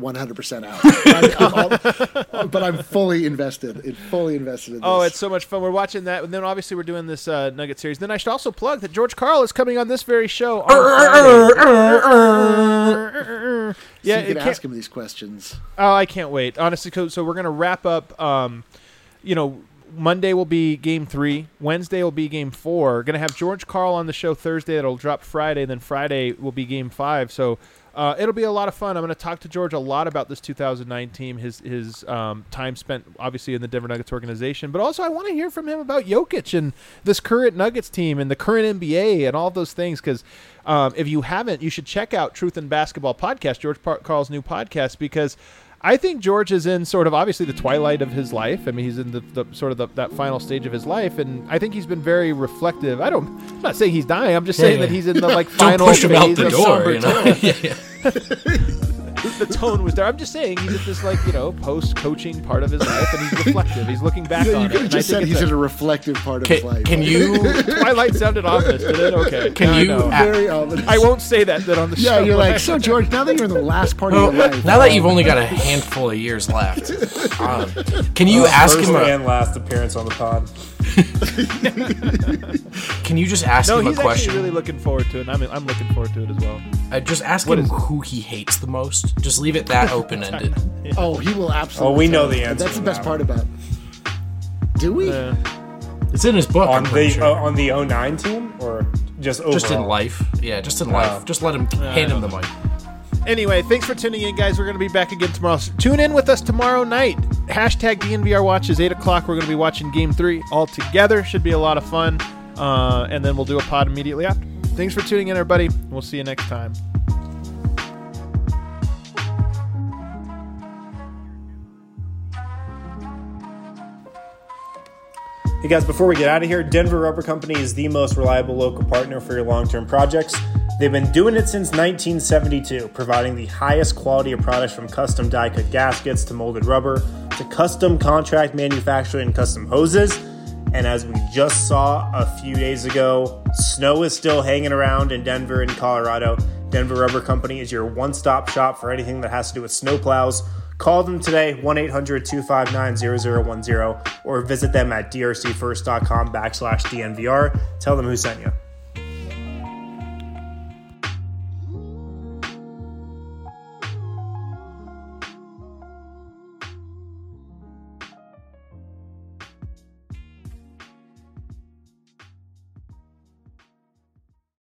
Speaker 3: 100% out. But I'm fully invested. Fully invested in this.
Speaker 2: Oh, it's so much fun. We're watching that, and then obviously we're doing this Nugget series. Then I should also plug that George Karl is coming on this very show on Friday.
Speaker 3: Yeah,
Speaker 2: Yeah,
Speaker 3: you can
Speaker 2: it can't-
Speaker 3: ask him these questions.
Speaker 2: Oh, I can't wait. Honestly, so we're gonna wrap up. Monday will be Game 3. Wednesday will be Game 4. Gonna have George Karl on the show Thursday. That'll drop Friday. Then Friday will be Game 5. So it'll be a lot of fun. I'm gonna talk to George a lot about this 2009 team. His time spent obviously in the Denver Nuggets organization, but also I want to hear from him about Jokic and this current Nuggets team and the current NBA and all of those things. Because if you haven't, you should check out Truth in Basketball podcast, George Karl's new podcast, because I think George is in sort of obviously the twilight of his life. I mean, he's in the sort of that final stage of his life, and I think he's been very reflective. I'm not saying he's dying. I'm just saying that he's in the like
Speaker 4: don't
Speaker 2: final
Speaker 4: push him out
Speaker 2: phase
Speaker 4: the
Speaker 2: of
Speaker 4: door.
Speaker 2: somber
Speaker 4: You know?
Speaker 2: tone.
Speaker 4: Yeah.
Speaker 2: The tone was there. I'm just saying he's at this like post-coaching part of his life, and he's reflective. He's looking back
Speaker 3: You
Speaker 2: on it.
Speaker 3: could have
Speaker 2: and I
Speaker 3: just
Speaker 2: think
Speaker 3: said
Speaker 2: it's
Speaker 3: he's in a reflective part of his life.
Speaker 4: Can you?
Speaker 2: Twilight sounded ominous, did it? Okay.
Speaker 4: Can
Speaker 2: Now I
Speaker 4: you-
Speaker 2: know.
Speaker 3: Very ominous.
Speaker 2: I won't say that on the show.
Speaker 3: Yeah, you're like, so George, now that you're in the last part
Speaker 4: Well,
Speaker 3: of your life.
Speaker 4: now that you've only got a handful of years left, can you ask
Speaker 1: First
Speaker 4: him?
Speaker 1: and last appearance on the pod.
Speaker 4: Can you just ask
Speaker 2: No,
Speaker 4: him a
Speaker 2: he's
Speaker 4: question?
Speaker 2: actually really looking forward to it. And I'm looking forward to it as well.
Speaker 4: Just ask
Speaker 2: What
Speaker 4: him
Speaker 2: is it?
Speaker 4: who he hates the most. Just leave it that open-ended.
Speaker 3: Oh, he will absolutely.
Speaker 1: Oh, we know
Speaker 3: tell
Speaker 1: the
Speaker 3: us.
Speaker 1: answer
Speaker 3: That's the
Speaker 1: to
Speaker 3: best
Speaker 1: that
Speaker 3: part about it. Do we?
Speaker 4: It's in his book.
Speaker 1: on
Speaker 4: I'm pretty
Speaker 1: the
Speaker 4: sure.
Speaker 1: on the 09 team or just overall?
Speaker 4: Just in life. Yeah, just in life. Just let him hand him the mic.
Speaker 2: Anyway, thanks for tuning in, guys. We're going to be back again tomorrow. So tune in with us tomorrow night. Hashtag DNVR Watch is 8 o'clock. We're going to be watching Game 3 all together. Should be a lot of fun. And then we'll do a pod immediately after. Thanks for tuning in, everybody. We'll see you next time.
Speaker 1: Hey guys, before we get out of here, Denver Rubber Company is the most reliable local partner for your long-term projects. They've been doing it since 1972, providing the highest quality of products from custom die-cut gaskets to molded rubber to custom contract manufacturing and custom hoses. And as we just saw a few days ago, snow is still hanging around in Denver and Colorado. Denver Rubber Company is your one-stop shop for anything that has to do with snowplows. Call them today, 1-800-259-0010, or visit them at drcfirst.com/DNVR. Tell them who sent you.